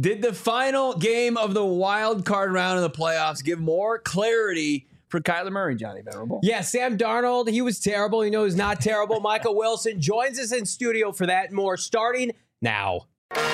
Did the final game of the wild card round of the playoffs give more clarity for Kyler Murray, Johnny Venerable? Yeah, Sam Darnold, he was terrible. You know he's not terrible. Michael Wilson joins us in studio for that and more, starting now.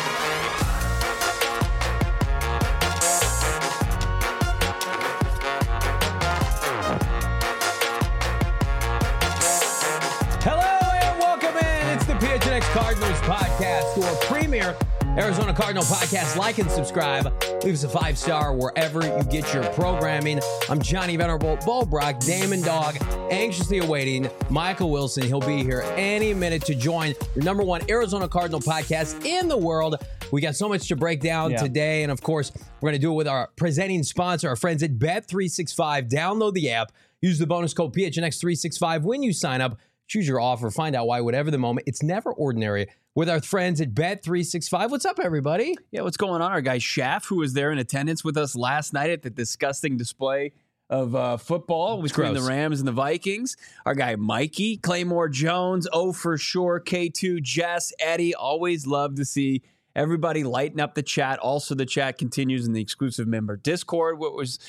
Hello and welcome in. It's the PHNX Cardinals podcast, your premier Arizona Cardinal podcast. Like and subscribe. Leave us a 5-star wherever you get your programming. I'm Johnny Venerable, Bo Brock, Damon Dog, anxiously awaiting Michael Wilson. He'll be here any minute to join the number one Arizona Cardinal podcast in the world. We got so much to break down today. And of course, we're going to do it with our presenting sponsor, our friends at Bet365. Download the app. Use the bonus code PHNX365 when you sign up. Choose your offer. Find out why, whatever the moment. It's never ordinary with our friends at Bet365. What's up, everybody? Yeah, what's going on? Our guy Schaff, who was there in attendance with us last night at the disgusting display of football between the Rams and the Vikings. Our guy Mikey, Claymore Jones, Oh For Sure, K2, Jess, Eddie. Always love to see everybody lighten up the chat. Also, the chat continues in the exclusive member Discord. What was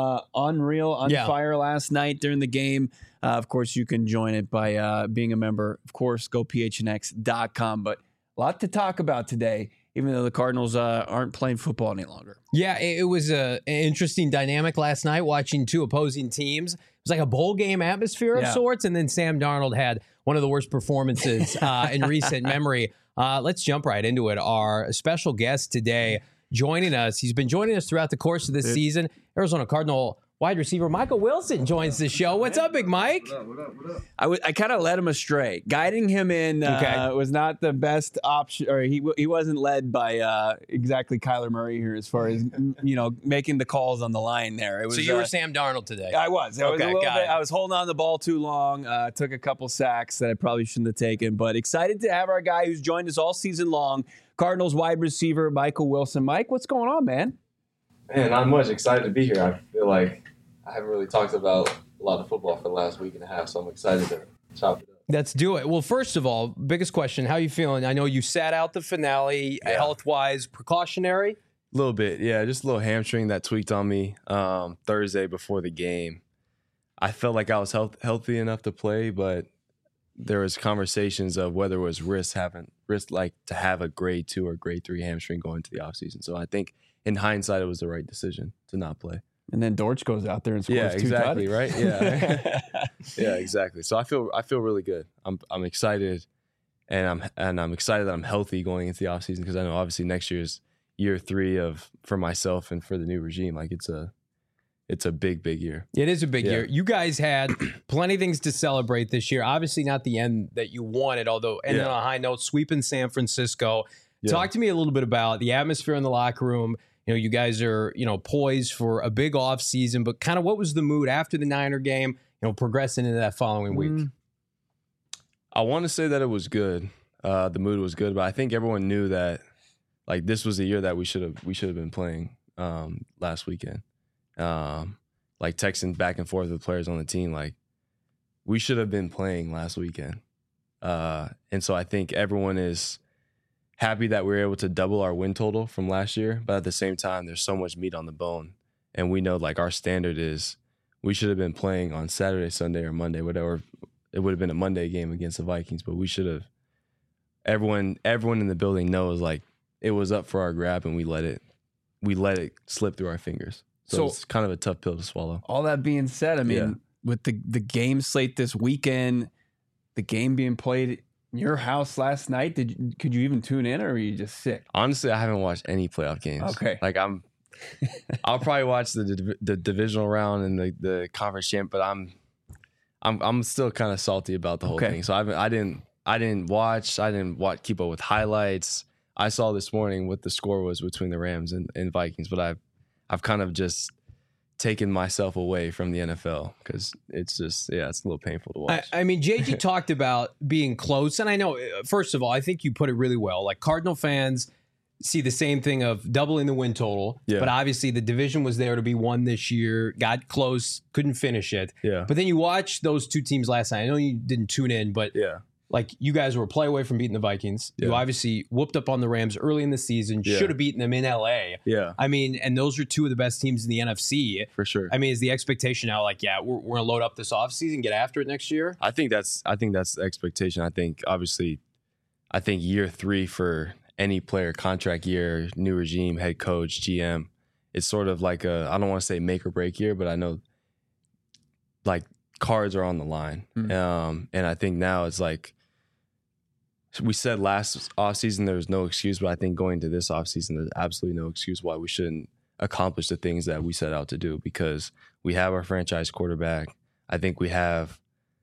unreal, on fire last night during the game. Of course, you can join it by being a member. Of course, go phnx.com. But a lot to talk about today, even though the Cardinals aren't playing football any longer. Yeah, it was an interesting dynamic last night watching two opposing teams. It was like a bowl game atmosphere of sorts. And then Sam Darnold had one of the worst performances in recent memory. Let's jump right into it. Our special guest today joining us. He's been joining us throughout the course of this season. Arizona Cardinal wide receiver Michael Wilson joins the show. What's up, Big Mike? What up? I kind of led him astray. Guiding him in was not the best option, or he wasn't led by exactly Kyler Murray here as far as making the calls on the line there. It was, so you were Sam Darnold today. I was. I was holding on the ball too long. Took a couple sacks that I probably shouldn't have taken, but excited to have our guy who's joined us all season long, Cardinals wide receiver Michael Wilson. Mike, what's going on, man? Man, not much. Excited to be here. I feel like I haven't really talked about a lot of football for the last week and a half, so I'm excited to chop it up. Let's do it. Well, first of all, biggest question, how you feeling? I know you sat out the finale, health-wise, precautionary? A little bit, yeah. Just a little hamstring that tweaked on me Thursday before the game. I felt like I was healthy enough to play, but there was conversations of whether it was risk like to have a grade 2 or grade 3 hamstring going into the offseason. So I think in hindsight, it was the right decision to not play. And then Dortch goes out there and scores exactly, two right? Yeah, yeah, exactly. So I feel really good. I'm excited, and I'm excited that I'm healthy going into the offseason because I know obviously next year is year 3 for myself and for the new regime. Like it's a big year. It is a big year. You guys had plenty of things to celebrate this year. Obviously not the end that you wanted, although ending on a high note, sweeping San Francisco. Yeah. Talk to me a little bit about the atmosphere in the locker room. You know, you guys are, poised for a big off season, but kind of what was the mood after the Niner game, progressing into that following week? I want to say that it was good. The mood was good, but I think everyone knew that like this was the year that we should have been playing last weekend. Like texting back and forth with players on the team, like we should have been playing last weekend. And so I think everyone is happy that we were able to double our win total from last year, but at the same time, there's so much meat on the bone. And we know like our standard is we should have been playing on Saturday, Sunday, or Monday, whatever. It would have been a Monday game against the Vikings, but we should have. Everyone in the building knows like it was up for our grab, and we let it slip through our fingers. So it's kind of a tough pill to swallow. All that being said, I mean, with the game slate this weekend, the game being played in your house last night, could you even tune in, or were you just sick? Honestly, I haven't watched any playoff games. Okay, like I'll probably watch the divisional round and the conference champ, but I'm still kind of salty about the whole thing. So I didn't watch. Keep up with highlights. I saw this morning what the score was between the Rams and Vikings, but I've kind of just taken myself away from the NFL because it's just, it's a little painful to watch. I mean, JG talked about being close. And I know, first of all, I think you put it really well. Like Cardinal fans see the same thing of doubling the win total. Yeah. But obviously the division was there to be won this year, got close, couldn't finish it. Yeah. But then you watch those two teams last night. I know you didn't tune in, but like you guys were a play away from beating the Vikings. Yeah. You obviously whooped up on the Rams early in the season. Yeah. Should have beaten them in LA. Yeah, I mean, and those are two of the best teams in the NFC. for sure. I mean, is the expectation now like, yeah, we're going to load up this offseason, get after it next year? I think that's the expectation. I think obviously, year 3 for any player, contract year, new regime, head coach, GM, it's sort of like I don't want to say make or break year, but I know like cards are on the line. And I think now it's like, we said last offseason there was no excuse, but I think going to this offseason, there's absolutely no excuse why we shouldn't accomplish the things that we set out to do, because we have our franchise quarterback. I think we have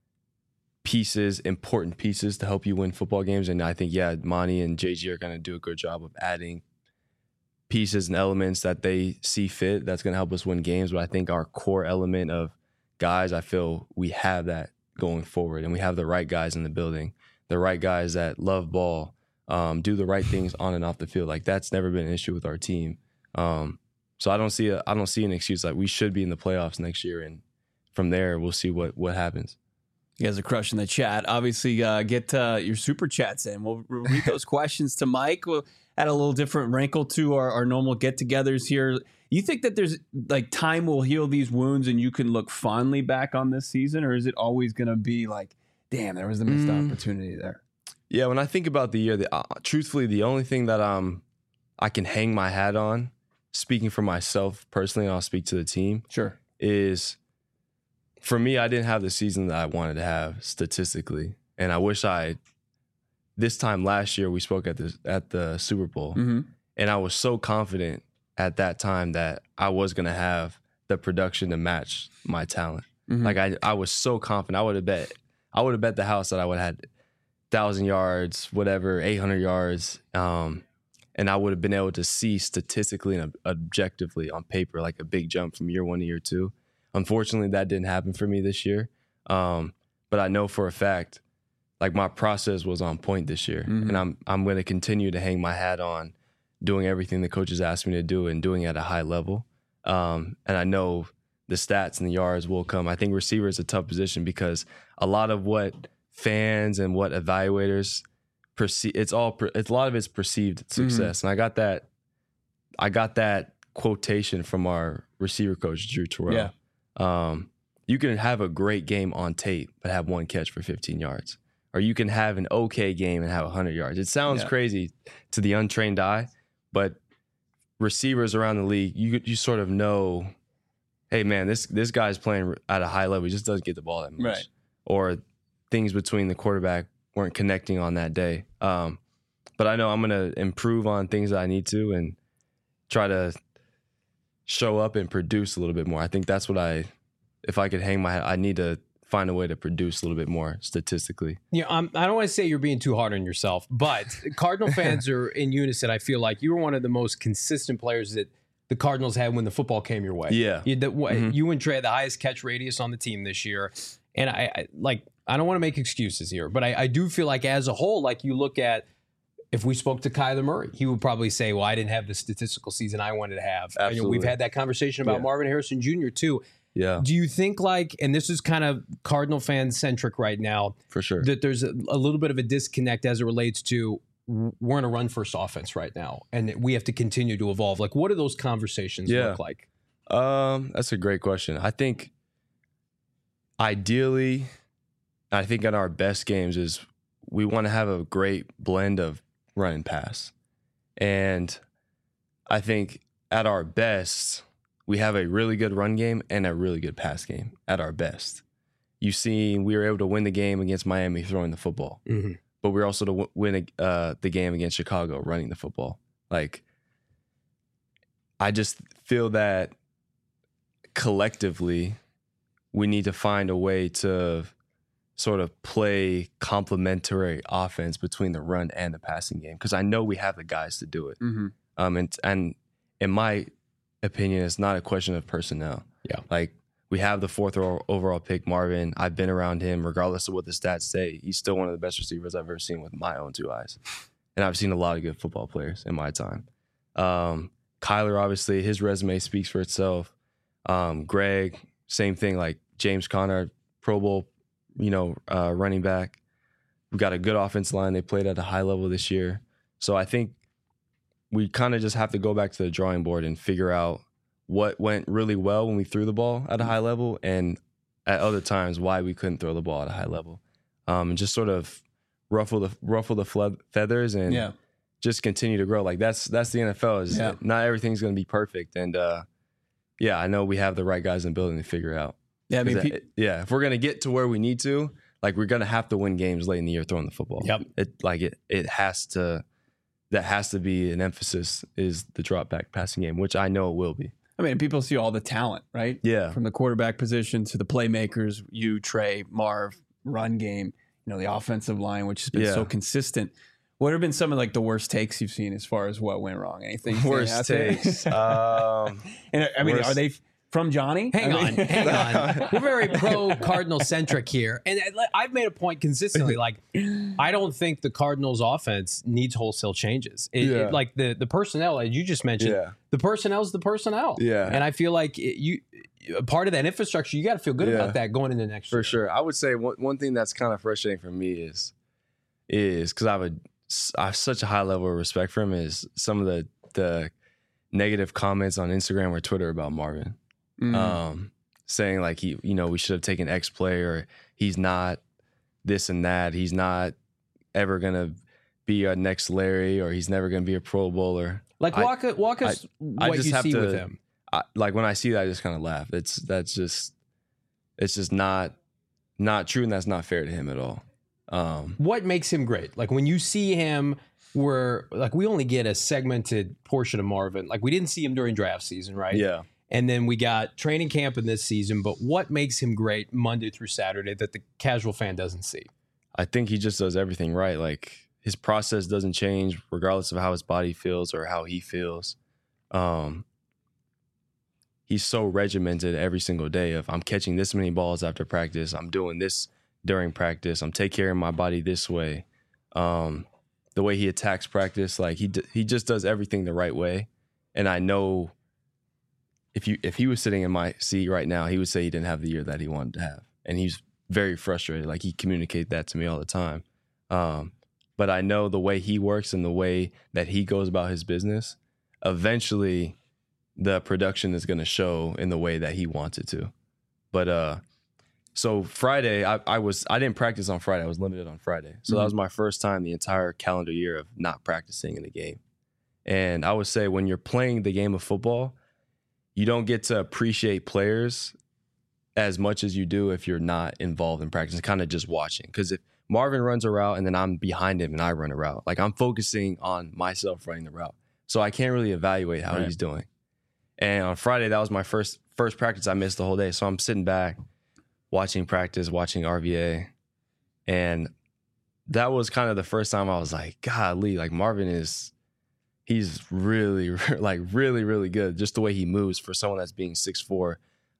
important pieces to help you win football games. And I think, Monty and JG are going to do a good job of adding pieces and elements that they see fit that's going to help us win games. But I think our core element of guys, I feel we have that going forward, and we have the right guys in the building. The right guys that love ball, do the right things on and off the field. Like, that's never been an issue with our team. So I don't see an excuse. Like, we should be in the playoffs next year, and from there we'll see what happens. You guys are crushing the chat. Obviously, get your super chats in. We'll read those questions to Mike. We'll add a little different wrinkle to our normal get-togethers here. You think that there's like time will heal these wounds and you can look fondly back on this season, or is it always going to be like, damn, there was a missed opportunity there? Yeah, when I think about the year, truthfully, the only thing that I can hang my hat on, speaking for myself personally, and I'll speak to the team, Sure, is for me, I didn't have the season that I wanted to have statistically, and I wish this time last year we spoke at the Super Bowl, and I was so confident at that time that I was going to have the production to match my talent. Like I was so confident. I would have bet the house that I would have had 1,000 yards, whatever, 800 yards, and I would have been able to see statistically and objectively on paper like a big jump from year 1 to year 2. Unfortunately, that didn't happen for me this year, but I know for a fact, like, my process was on point this year, and I'm going to continue to hang my hat on doing everything the coaches asked me to do and doing it at a high level. And I know the stats and the yards will come. I think receiver is a tough position because a lot of what fans and what evaluators perceive, a lot of it's perceived success. And I got that quotation from our receiver coach, Drew Terrell. Yeah. You can have a great game on tape, but have 1 catch for 15 yards. Or you can have an okay game and have 100 yards. It sounds crazy to the untrained eye, but receivers around the league, you sort of know, hey, man, this guy's playing at a high level. He just doesn't get the ball that much. Right. Or things between the quarterback weren't connecting on that day. But I know I'm going to improve on things that I need to and try to show up and produce a little bit more. I think that's what if I could hang my hat, I need to find a way to produce a little bit more statistically. Yeah, I don't want to say you're being too hard on yourself, but Cardinal fans are in unison. I feel like you were one of the most consistent players that the Cardinals had when the football came your way. Yeah. You and Trey had the highest catch radius on the team this year. And I don't want to make excuses here, but I do feel like as a whole, like you look at, if we spoke to Kyler Murray, he would probably say, well, I didn't have the statistical season I wanted to have. Absolutely. We've had that conversation about Marvin Harrison Jr. too. Yeah. Do you think, like, and this is kind of Cardinal fan centric right now, For sure. that there's a little bit of a disconnect as it relates to we're in a run first offense right now and we have to continue to evolve? Like, what do those conversations look like? That's a great question. I think ideally, I think at our best games is we want to have a great blend of run and pass. And I think at our best, we have a really good run game and a really good pass game at our best. You've seen we were able to win the game against Miami throwing the football, but we were also to win the game against Chicago running the football. Like, I just feel that collectively we need to find a way to sort of play complementary offense between the run and the passing game, because I know we have the guys to do it. And in my opinion, it's not a question of personnel. Yeah. Like, we have the 4th overall pick, Marvin. I've been around him, regardless of what the stats say. He's still one of the best receivers I've ever seen with my own 2 eyes. And I've seen a lot of good football players in my time. Kyler, obviously, his resume speaks for itself. Greg, same thing, like James Conner, Pro Bowl, running back. We've got a good offensive line. They played at a high level this year. So I think we kind of just have to go back to the drawing board and figure out what went really well when we threw the ball at a high level, and at other times why we couldn't throw the ball at a high level. And just sort of ruffle the feathers and just continue to grow. Like that's the NFL. Is not everything's going to be perfect. And I know we have the right guys in the building to figure it out. Yeah, I mean, if we're going to get to where we need to, like we're going to have to win games late in the year throwing the football. Yep. It has to. That has to be an emphasis, is the drop back passing game, which I know it will be. I mean, people see all the talent, right? Yeah. From the quarterback position to the playmakers, you, Trey, Marv, run game, the offensive line, which has been so consistent. What have been some of like the worst takes you've seen as far as what went wrong? Anything? Worst takes. And I mean, are they from Johnny? Hang on. We're very pro-Cardinal centric here. And I've made a point consistently, like, I don't think the Cardinals offense needs wholesale changes. Like the personnel, as you just mentioned, the personnel is the personnel. Yeah. And I feel like part of that infrastructure, you got to feel good about that going into next year. For sure. I would say one thing that's kind of frustrating for me is because I have such a high level of respect for him, is some of the negative comments on Instagram or Twitter about Marvin. Saying like we should have taken X player, or he's not this and that, he's not ever gonna be a next Larry, or he's never gonna be a Pro Bowler. Like walk us what you see with him. Like when I see that, I just kind of laugh. It's just not true, and that's not fair to him at all. What makes him great? Like when you see him, we only get a segmented portion of Marvin. Like we didn't see him during draft season, right? Yeah. And then we got training camp in this season, but what makes him great Monday through Saturday that the casual fan doesn't see? I think he just does everything right. Like his process doesn't change regardless of how his body feels or how he feels. He's so regimented every single day of, I'm catching this many balls after practice, I'm doing this during practice, I'm taking care of my body this way. The way he attacks practice, like he just does everything the right way. And I know if he was sitting in my seat right now, he would say he didn't have the year that he wanted to have. And he's very frustrated. Like he communicates that to me all the time. But I know the way he works and the way that he goes about his business, eventually the production is going to show in the way that he wants it to. But so Friday, I didn't practice on Friday. I was limited on Friday. So that was my first time the entire calendar year of not practicing in the game. And I would say when you're playing the game of football, you don't get to appreciate players as much as you do if you're not involved in practice, kind of just watching. Because if Marvin runs a route and then I'm behind him and I run a route, like I'm focusing on myself running the route. So I can't really evaluate how he's doing. And on Friday, that was my first practice. I missed the whole day. So I'm sitting back, watching practice, watching RVA. And that was kind of the first time I was like, golly, like Marvin he's really, like really, really good. Just the way he moves for someone that's being 6'4".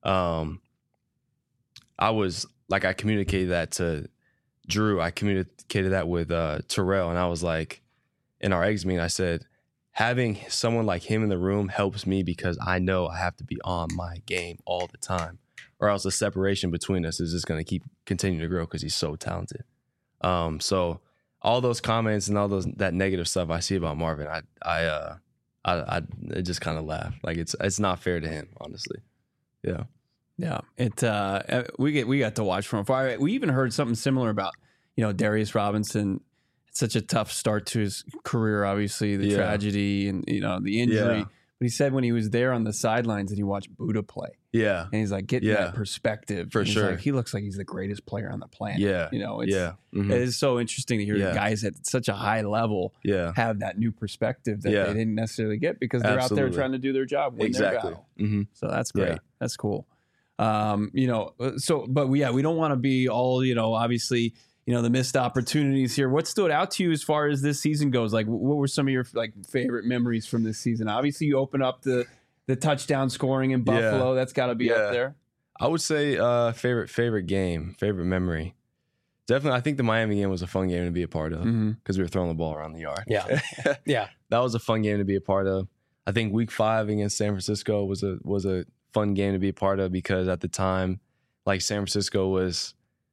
I communicated that to Drew. I communicated that with Terrell. And I was like, in our eggs meeting, I said, having someone like him in the room helps me because I know I have to be on my game all the time, or else the separation between us is just going to continue to grow because he's so talented. So all those comments and all that negative stuff I see about Marvin, I just kind of laugh. Like it's not fair to him, honestly. Yeah. Yeah. We got to watch from afar. We even heard something similar about, Darius Robinson. It's such a tough start to his career, obviously, the tragedy and, the injury. Yeah. But he said when he was there on the sidelines and he watched Buddha play. Yeah. And he's like, getting that perspective. For sure. Like, he looks like he's the greatest player on the planet. Yeah. It is so interesting to hear the guys at such a high level have that new perspective that they didn't necessarily get because they're out there trying to do their job, win their battle. So that's great. Yeah. That's cool. But we don't want to be all, obviously, the missed opportunities here. What stood out to you as far as this season goes? Like, what were some of your favorite memories from this season? Obviously, you open up the touchdown scoring in Buffalo. That's got to be up there. I would say favorite game, favorite memory. Definitely, I think the Miami game was a fun game to be a part of because we were throwing the ball around the yard. Yeah, yeah, that was a fun game to be a part of. I think Week 5 against San Francisco was a fun game to be a part of because at the time, like San Francisco was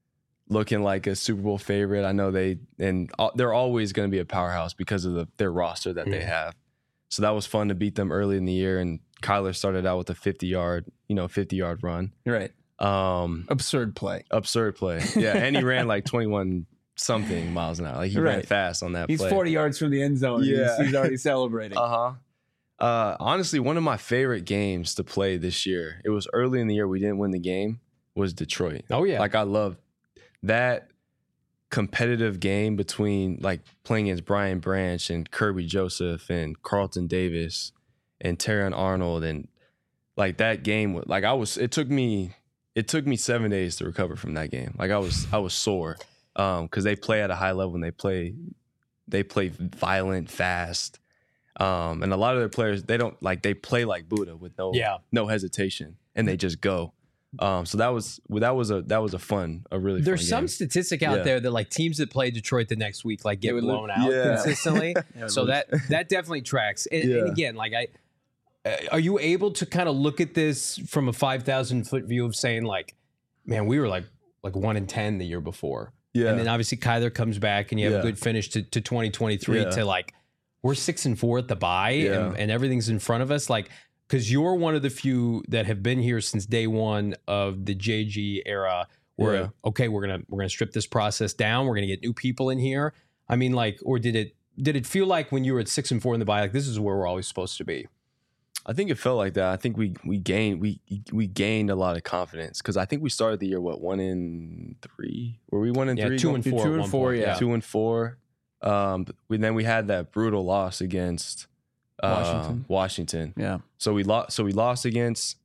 looking like a Super Bowl favorite. I know they're always going to be a powerhouse because of their roster that they have. So that was fun to beat them early in the year. And Kyler started out with a 50-yard run. Right. Absurd play. Yeah. And he ran like 21 something miles an hour. Like he ran fast on that play. He's 40 yards from the end zone. Yeah. He's already celebrating. Honestly, one of my favorite games to play this year, it was early in the year, we didn't win the game, was Detroit. Oh, yeah. Like I love that competitive game between like playing against Brian Branch and Kirby Joseph and Carlton Davis and Terrion Arnold. And like that game, like it took me 7 days to recover from that game. Like I was sore. Because they play at a high level and they play violent, fast, and a lot of their players they play like Buddha with no hesitation and they just go. So that was a really. There's fun some game. statistic out there that like teams that play Detroit the next week like get blown out consistently. So that definitely tracks. And again, like are you able to kind of look at this from a 5,000 foot view of saying like, man, we were like 1-10 the year before. Yeah. And then obviously Kyler comes back and you have a good finish to 2023 to like, we're 6-4 at the bye and everything's in front of us. Like, because you're one of the few that have been here since day one of the JG era where, okay, we're gonna strip this process down. We're going to get new people in here. I mean, like, or did it feel like when you were at 6-4 in the bye, like this is where we're always supposed to be? I think it felt like that. I think we gained a lot of confidence because I think we started the year 1-3. Were we 1-3? 2-4. 2-4. Yeah. 2-4. Then we had that brutal loss against Washington. Yeah. So we lost against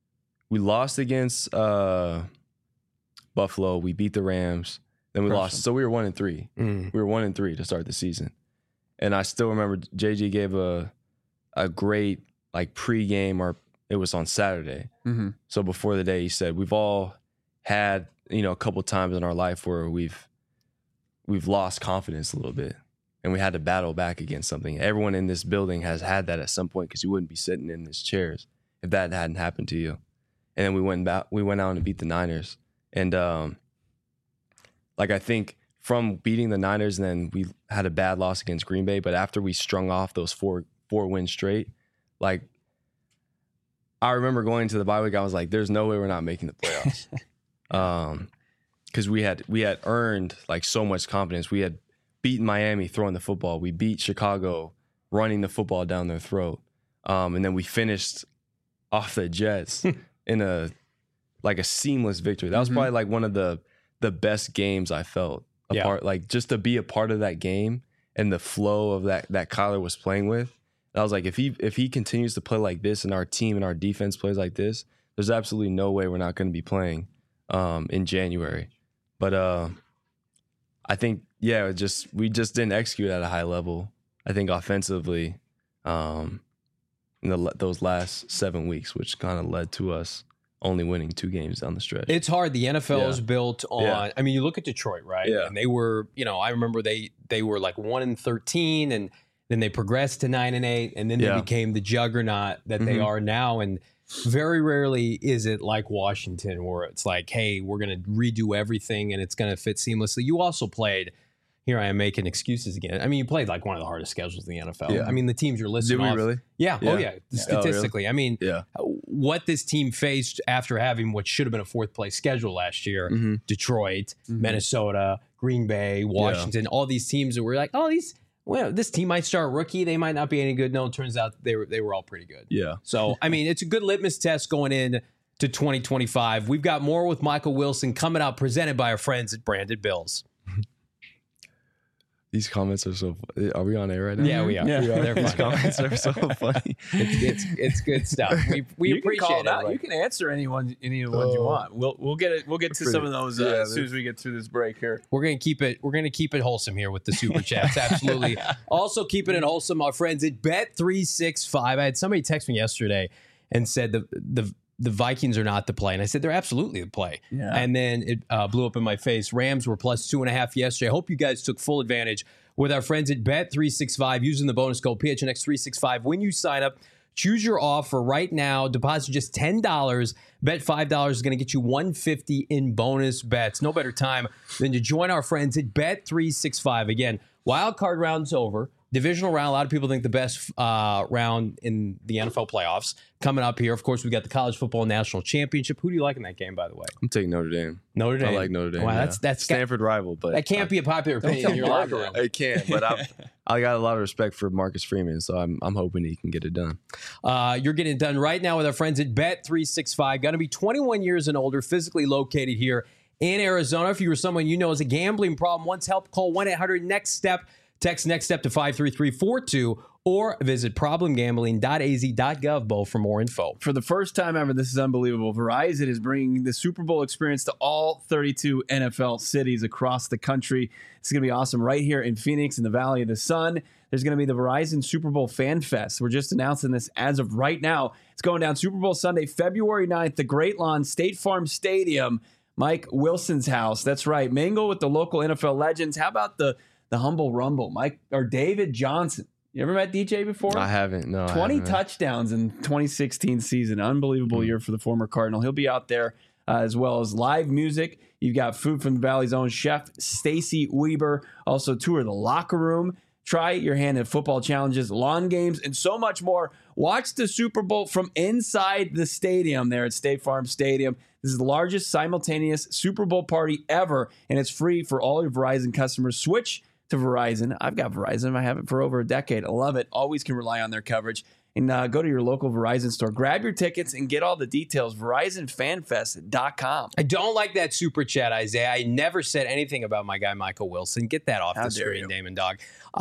Buffalo. We beat the Rams. Then we lost. So we were 1-3. We were 1-3 to start the season. And I still remember JG gave a great like pregame, or it was on Saturday. Mm-hmm. So before the day, he said, we've all had, a couple times in our life where we've lost confidence a little bit and we had to battle back against something. Everyone in this building has had that at some point because you wouldn't be sitting in these chairs if that hadn't happened to you. And then we went out and beat the Niners. And like I think from beating the Niners, and then we had a bad loss against Green Bay, but after we strung off those four wins straight, like, I remember going to the bye week, I was like, there's no way we're not making the playoffs. Because we had earned like so much confidence. We had beaten Miami throwing the football. We beat Chicago running the football down their throat. And then we finished off the Jets in a seamless victory. That was probably like one of the best games I felt like just to be a part of that game and the flow of that Kyler was playing with. I was like, if he continues to play like this and our team and our defense plays like this, there's absolutely no way we're not going to be playing in January. But I think, we just didn't execute at a high level. I think offensively in those last 7 weeks, which kind of led to us only winning 2 games down the stretch. It's hard. The NFL is built on, I mean, you look at Detroit, right? Yeah. And they were, I remember they were like 1-13 and then they progressed to 9-8, and then they became the juggernaut that they are now. And very rarely is it like Washington, where it's like, hey, we're going to redo everything and it's going to fit seamlessly. You also played, here I am making excuses again. I mean, you played like one of the hardest schedules in the NFL. Yeah. I mean, the teams you're listing off. Did we really? Yeah. Oh, yeah. Statistically. Oh, really? I mean, what this team faced after having what should have been a 4th place schedule last year, Detroit, Minnesota, Green Bay, Washington, all these teams that were like, this team might start rookie. They might not be any good. No, it turns out they were all pretty good. Yeah. So, I mean, it's a good litmus test going in to 2025. We've got more with Michael Wilson coming out, presented by our friends at Branded Bills. These comments are so funny. Are we on air right now? Yeah, we are. Yeah. These comments are so funny. It's good stuff. We appreciate it. You can answer any of the ones you want. We'll get to some of those as soon as we get through this break here. We're gonna keep it wholesome here with the super chats. Absolutely. Also keeping it wholesome, our friends at Bet365. I had somebody text me yesterday and said the Vikings are not the play. And I said, they're absolutely the play. Yeah. And then it blew up in my face. Rams were plus 2.5 yesterday. I hope you guys took full advantage with our friends at Bet365 using the bonus code PHNX365 when you sign up. Choose your offer right now. Deposit just $10. Bet $5 is going to get you $150 in bonus bets. No better time than to join our friends at Bet365. Again, wild card round's over. Divisional round, a lot of people think the best round in the NFL playoffs coming up here. Of course, we've got the College Football National Championship. Who do you like in that game, by the way? I'm taking Notre Dame. Notre Dame. I like Notre Dame. Wow, yeah. that's Stanford rival, but that can't be a popular opinion in your locker room. It can't, but I got a lot of respect for Marcus Freeman, so I'm hoping he can get it done. You're getting it done right now with our friends at Bet365. Got to be 21 years and older, physically located here in Arizona. If you were someone you know has a gambling problem, wants help, call 1-800-NEXT-STEP. Text next step to 53342 or visit problemgambling.az.gov, Bo, for more info. For the first time ever, this is unbelievable. Verizon is bringing the Super Bowl experience to all 32 NFL cities across the country. It's going to be awesome right here in Phoenix in the Valley of the Sun. There's going to be the Verizon Super Bowl Fan Fest. We're just announcing this as of right now. It's going down Super Bowl Sunday, February 9th, the Great Lawn State Farm Stadium, Mike Wilson's house. That's right. Mingle with the local NFL legends. How about the Humble Rumble, Mike or David Johnson? You ever met DJ before? I haven't. No, 20 touchdowns in 2016 season. Unbelievable year for the former Cardinal. He'll be out there as well as live music. You've got food from the Valley's own chef, Stacy Weber. Also tour the locker room. Try your hand at football challenges, lawn games, and so much more. Watch the Super Bowl from inside the stadium there at State Farm Stadium. This is the largest simultaneous Super Bowl party ever, and it's free for all your Verizon customers. Switch to Verizon. I've got Verizon. I have it for over a decade. I love it. Always can rely on their coverage. And go to your local Verizon store. Grab your tickets and get all the details. VerizonFanFest.com. I don't like that super chat, Isaiah. I never said anything about my guy, Michael Wilson. Get that off the screen, Damon Dog.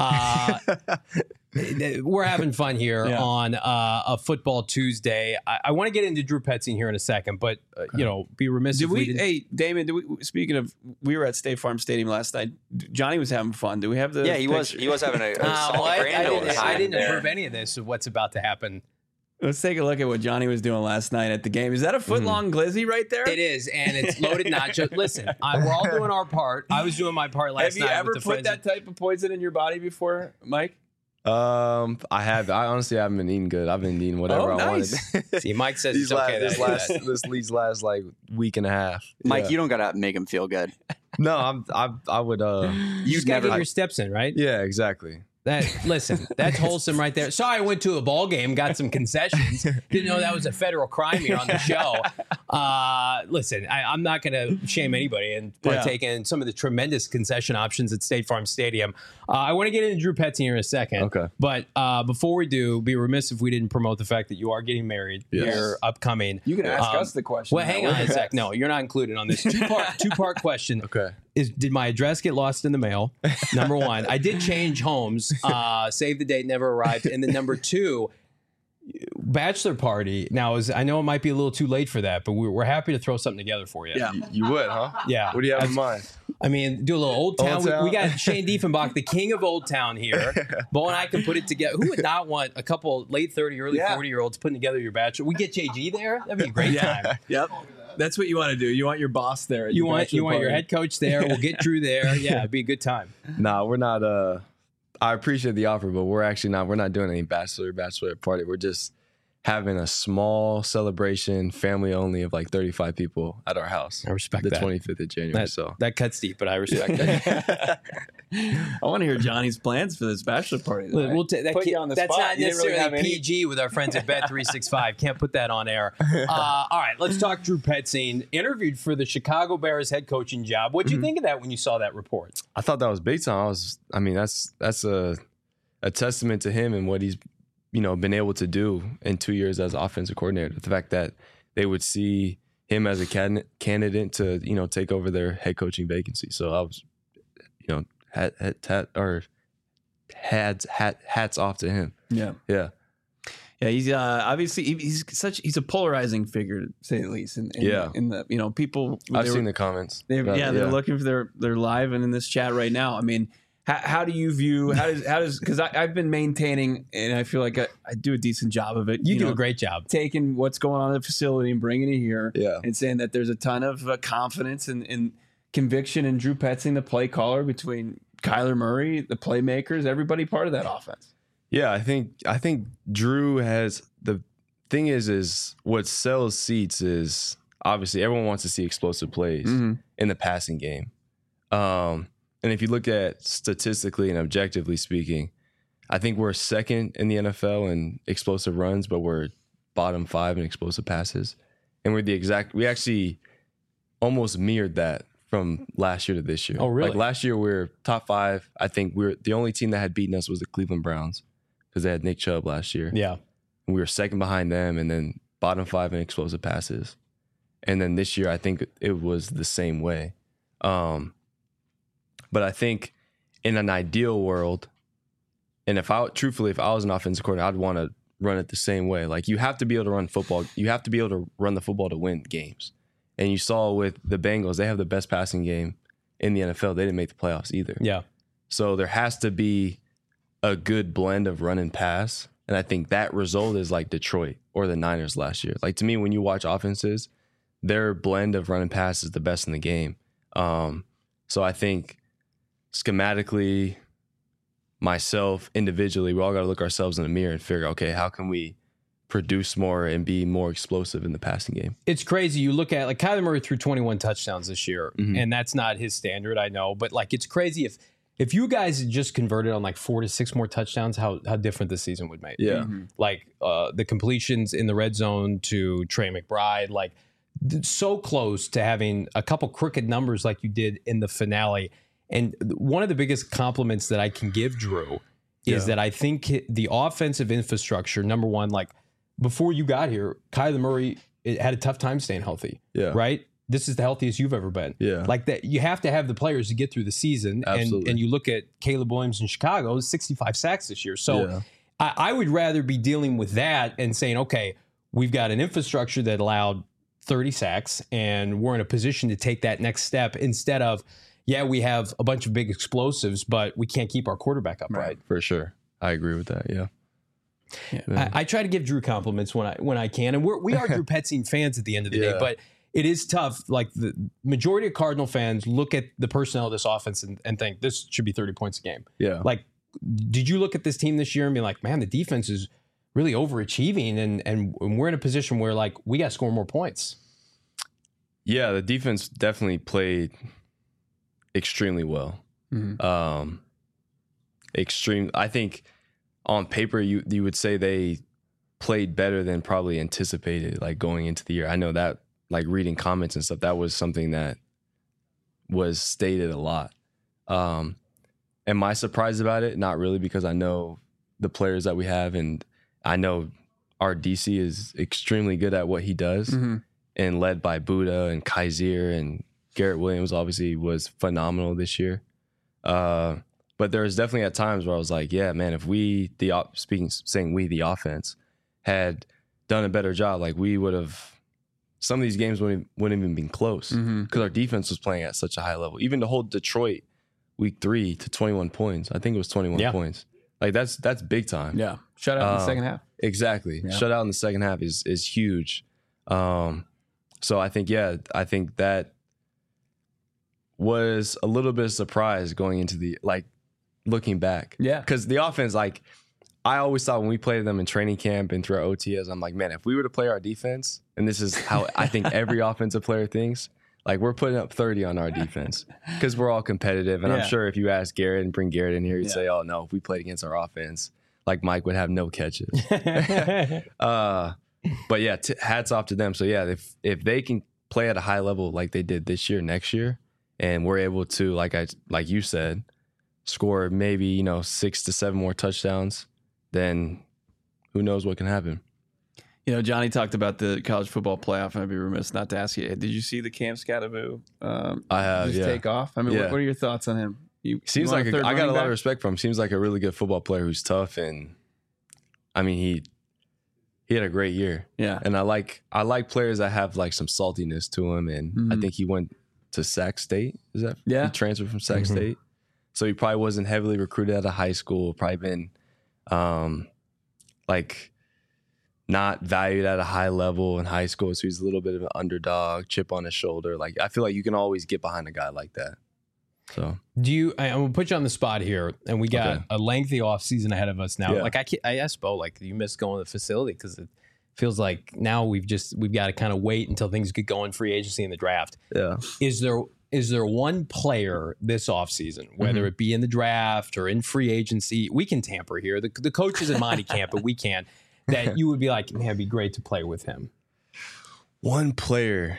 We're having fun here on a Football Tuesday. I want to get into Drew Petzing here in a second, but be remiss if we didn't. Hey, Damon, speaking of, we were at State Farm Stadium last night. Johnny was having fun. Do we have the? Yeah, he was having a I didn't approve any of this of what's about to happen. Let's take a look at what Johnny was doing last night at the game. Is that a foot-long glizzy right there? It is, and it's loaded nacho. Listen, we're all doing our part. I was doing my part last night. Have you ever put that type of poison in your body before, Mike? I have. I honestly haven't been eating good. I've been eating whatever I wanted. See, Mike says it's okay. These last like week and a half. Mike, you don't gotta make him feel good. No, I would. You just gotta get your steps in, right? Yeah, exactly. Listen, that's wholesome right there. Sorry, I went to a ball game, got some concessions. Didn't know that was a federal crime here on the show. Listen, I'm not going to shame anybody and partake in some of the tremendous concession options at State Farm Stadium. I want to get into Drew Petzing here in a second. Okay. But before we do, be remiss if we didn't promote the fact that you are getting married here upcoming. You can ask us the question. Well, hang on a sec. No, you're not included on this two-part question. Okay. Did my address get lost in the mail? Number one. I did change homes. Save the date, never arrived. And then number two, bachelor party. Now, I know it might be a little too late for that, but we're happy to throw something together for you. Yeah. You would, huh? Yeah. What do you have in mind? I mean, do a little Old Town. We got Shane Diefenbach, the king of Old Town here. Bo and I can put it together. Who would not want a couple late 30, early 40-year-olds putting together your bachelor? We get JG there. That'd be a great time. Yep. That's what you want to do. You want your boss there. You want your head coach there. We'll get Drew there. Yeah, it'd be a good time. Nah, we're not. I appreciate the offer, but we're actually not. We're not doing any bachelor party. We're just having a small celebration, family only, of like 35 people at our house. I respect the that. 25th of January. That cuts deep, but I respect that. I want to hear Johnny's plans for this bachelor party. We'll put you on the spot. That's not necessarily really PG with our friends at Bet365. Can't put that on air. All right, let's talk Drew Petzing. Interviewed for the Chicago Bears head coaching job. What'd you think of that when you saw that report? I thought that was big time. That's a testament to him and what he's been able to do in 2 years as offensive coordinator. The fact that they would see him as a candidate to take over their head coaching vacancy. So I was hats off to him. Yeah. He's obviously he's a polarizing figure, to say the least. In the people, I've seen the comments. They're looking for they're live and in this chat right now. I mean, how do you view how does because I've been maintaining and I feel like I do a decent job of it. You do a great job taking what's going on in the facility and bringing it here, and saying that there's a ton of confidence and conviction in Drew Petzing, the play caller, between Kyler Murray, the playmakers, everybody part of that offense. Yeah, I think Drew has the thing is what sells seats is obviously everyone wants to see explosive plays in the passing game. And if you look at statistically and objectively speaking, I think we're second in the NFL in explosive runs, but we're bottom 5 in explosive passes. And we actually almost mirrored that from last year to this year. Oh, really? Like last year we were top 5. I think the only team that had beaten us was the Cleveland Browns because they had Nick Chubb last year. Yeah. And we were second behind them and then bottom 5 in explosive passes. And then this year I think it was the same way. But I think in an ideal world, and if I was an offensive coordinator, I'd want to run it the same way. Like you have to be able to run football. You have to be able to run the football to win games. And you saw with the Bengals, they have the best passing game in the NFL. They didn't make the playoffs either. Yeah. So there has to be a good blend of run and pass. And I think that result is like Detroit or the Niners last year. Like to me, when you watch offenses, their blend of run and pass is the best in the game. So I think schematically, myself, individually, we all got to look ourselves in the mirror and figure, okay, how can we produce more and be more explosive in the passing game? It's crazy. You look at like Kyler Murray threw 21 touchdowns this year, and that's not his standard, I know. But like it's crazy if you guys had just converted on like 4 to 6 more touchdowns, how different the season would make. Yeah. Like the completions in the red zone to Trey McBride, like so close to having a couple crooked numbers like you did in the finale. And one of the biggest compliments that I can give Drew is that I think the offensive infrastructure, number one, like before you got here, Kyler Murray had a tough time staying healthy. Yeah. Right? This is the healthiest you've ever been. Yeah. Like that, you have to have the players to get through the season. Absolutely. And you look at Caleb Williams in Chicago, 65 sacks this year. So Yeah. I would rather be dealing with that and saying, okay, we've got an infrastructure that allowed 30 sacks and we're in a position to take that next step instead of, yeah, we have a bunch of big explosives, but we can't keep our quarterback upright. For sure. I agree with that. Yeah. I try to give Drew compliments when I can, and we are Drew Petzing fans at the end of the day, but it is tough. Like the majority of Cardinal fans look at the personnel of this offense and think this should be 30 points a game. Yeah. Like, did you look at this team this year and be like, man, the defense is really overachieving, and we're in a position where like we got to score more points? Yeah, the defense definitely played extremely well. I think on paper you would say they played better than probably anticipated, like going into the year. I know that, like reading comments and stuff, that was something that was stated a lot. Am I surprised about it? Not really, because I know the players that we have, and I know our DC is extremely good at what he does, and led by Buddha and Kaiser, and Garrett Williams obviously was phenomenal this year. But there was definitely at times where I was like, yeah, man, if we, the offense, had done a better job, like we would have, some of these games wouldn't even been close because our defense was playing at such a high level. Even to hold Detroit week 3 to 21 points, I think it was 21 points. Like that's big time. Yeah. Shut out in the second half. Exactly. Yeah. Shut out in the second half is huge. So I think that was a little bit of surprise going into the, like, looking back. Yeah. Because the offense, like, I always thought when we played them in training camp and through our OTS, I'm like, man, if we were to play our defense, and this is how I think every offensive player thinks, like, we're putting up 30 on our defense because we're all competitive. And I'm sure if you ask Garrett and bring Garrett in here, he'd say, oh, no, if we played against our offense, like, Mike would have no catches. But yeah, hats off to them. So yeah, if they can play at a high level like they did this year, next year, and we're able to, like you said, score maybe 6 to 7 more touchdowns, then who knows what can happen. Johnny talked about the college football playoff, and I'd be remiss not to ask you, did you see the Cam Scattervoo I have, take off? I mean, what are your thoughts on him? Seems like I got a lot of respect for him. Seems like a really good football player who's tough, and I mean he had a great year. Yeah, and I like players that have like some saltiness to him, and I think he went to Sac State. Is that he transferred from Sac State? So he probably wasn't heavily recruited out of high school. Probably been like not valued at a high level in high school. So he's a little bit of an underdog, chip on his shoulder. Like I feel like you can always get behind a guy like that. So I'm gonna put you on the spot here, and we got a lengthy off season ahead of us now. Yeah. Like I asked Bo, like, you miss going to the facility because it feels like now we've got to kind of wait until things get going, free agency and the draft. yeah, Is there one player this offseason, whether it be in the draft or in free agency, we can tamper here. The coaches in Monty can't, but we can. That you would be like, man, it'd be great to play with him. one player.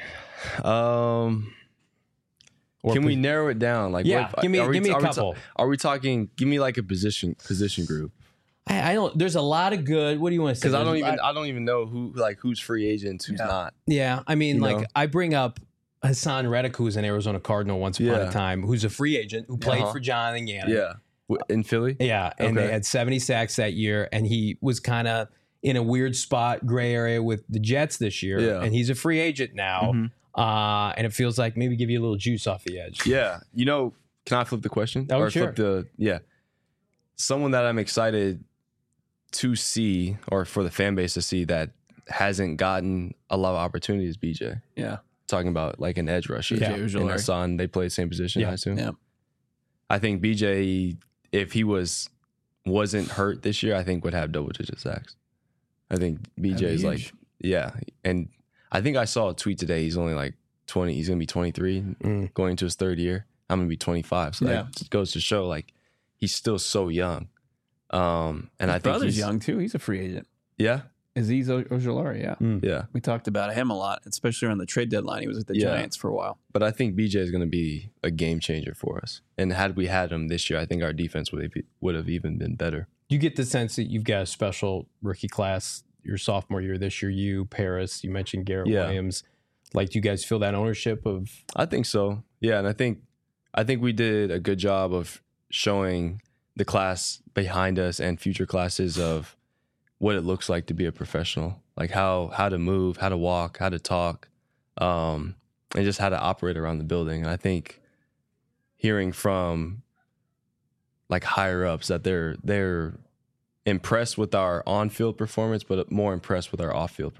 Can we narrow it down? Like, Yeah, give me a couple. Are we talking? Give me like a position group. I don't. There's a lot of good. What do you want to say? Because I don't even know who's free agents, who's not. Yeah, I mean, You like know? I bring up Hassan Reddick, who was an Arizona Cardinal once upon a time, who's a free agent who played for Jonathan Gannon. Yeah, in Philly. Yeah, and they had 70 sacks that year, and he was kind of in a weird spot, gray area with the Jets this year, Yeah. and he's a free agent now. And it feels like maybe give you a little juice off the edge. Yeah, can I flip the question? Oh, sure. Someone that I'm excited to see, or for the fan base to see, that hasn't gotten a lot of opportunities. BJ. Yeah. Talking about like an edge rusher. Yeah. And Hassan, they play the same position, I assume. Yeah. I think BJ, if he wasn't hurt this year, I think would have double-digit sacks. I think BJ is like, and I think I saw a tweet today. He's only like 20. He's gonna be 23, going into his third year. I'm gonna be 25. So that just goes to show, like, he's still so young. And I think brother's he's young too. He's a free agent. Yeah, Aziz Ojulari. Yeah. yeah. We talked about him a lot, especially around the trade deadline. He was with the Giants for a while. But I think BJ is gonna be a game changer for us. And had we had him this year, I think our defense would have even been better. You get the sense that you've got a special rookie class your sophomore year this year. You, Paris, you mentioned Garrett Williams. Like, do you guys feel that ownership of? I think so. Yeah, and I think we did a good job of showing the class behind us and future classes of what it looks like to be a professional, like how to move, how to walk, how to talk, and just how to operate around the building. And I think hearing from like higher ups that they're impressed with our on-field performance, but more impressed with our off-field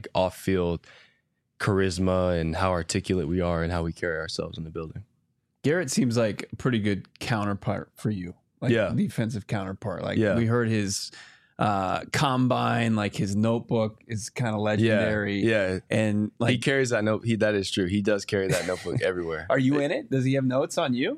charisma and how articulate we are and how we carry ourselves in the building. Garrett seems like a pretty good counterpart for you. Like defensive counterpart. Like we heard his combine, like his notebook is kind of legendary. Yeah. And like he carries that note. That is true. He does carry that notebook everywhere. Are you in it? Does he have notes on you?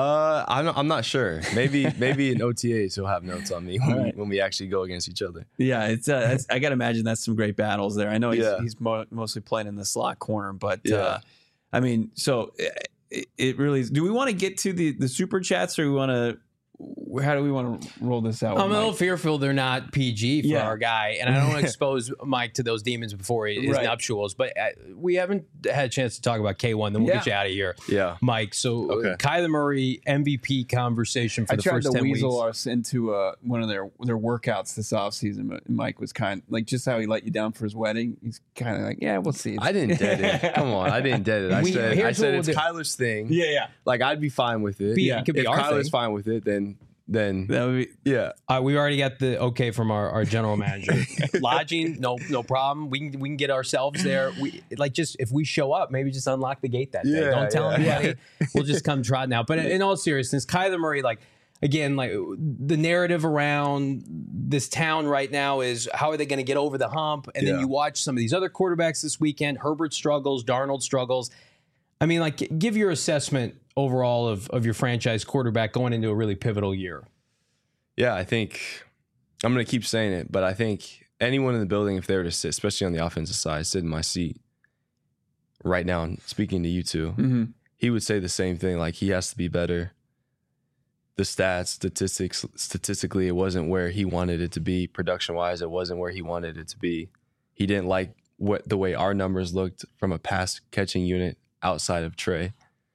I'm not sure. Maybe in OTAs he'll have notes on me when we actually go against each other. Yeah, it's I gotta imagine that's some great battles there. I know he's mostly playing in the slot corner, but I mean, so it really is. Do we want to get to the super chats, or we want to? How do we want to roll this out? I'm a little fearful they're not PG for our guy, and I don't want to expose Mike to those demons before his nuptials. But we haven't had a chance to talk about K1. Then we'll get you out of here, Mike. So Kyler Murray MVP conversation for the first 10 weeks. I tried to weasel us into one of their workouts this offseason, but Mike was kind of like, just how he let you down for his wedding. He's kind of like, yeah, we'll see. I didn't dead it. Come on, I didn't dead it. I said it's Kyler's thing. Yeah. Like, I'd be fine with it. It could be if our Kyler's thing. fine with it, then that would be we already got the okay from our general manager. Lodging, no problem. We can get ourselves there. We just if we show up, maybe just unlock the gate that day. Don't tell anybody. We'll just come trotting out. But in all seriousness, Kyler Murray, like, again, like, the narrative around this town right now is how are they going to get over the hump? And then you watch some of these other quarterbacks this weekend. Herbert struggles, Darnold struggles. I mean, like, give your assessment overall of your franchise quarterback going into a really pivotal year. Yeah, I think I'm going to keep saying it, but I think anyone in the building, if they were to sit, especially on the offensive side, sit in my seat right now and speaking to you two, he would say the same thing. Like, he has to be better. The statistically, it wasn't where he wanted it to be. Production-wise, it wasn't where he wanted it to be. He didn't like the way our numbers looked from a pass-catching unit outside of Trey.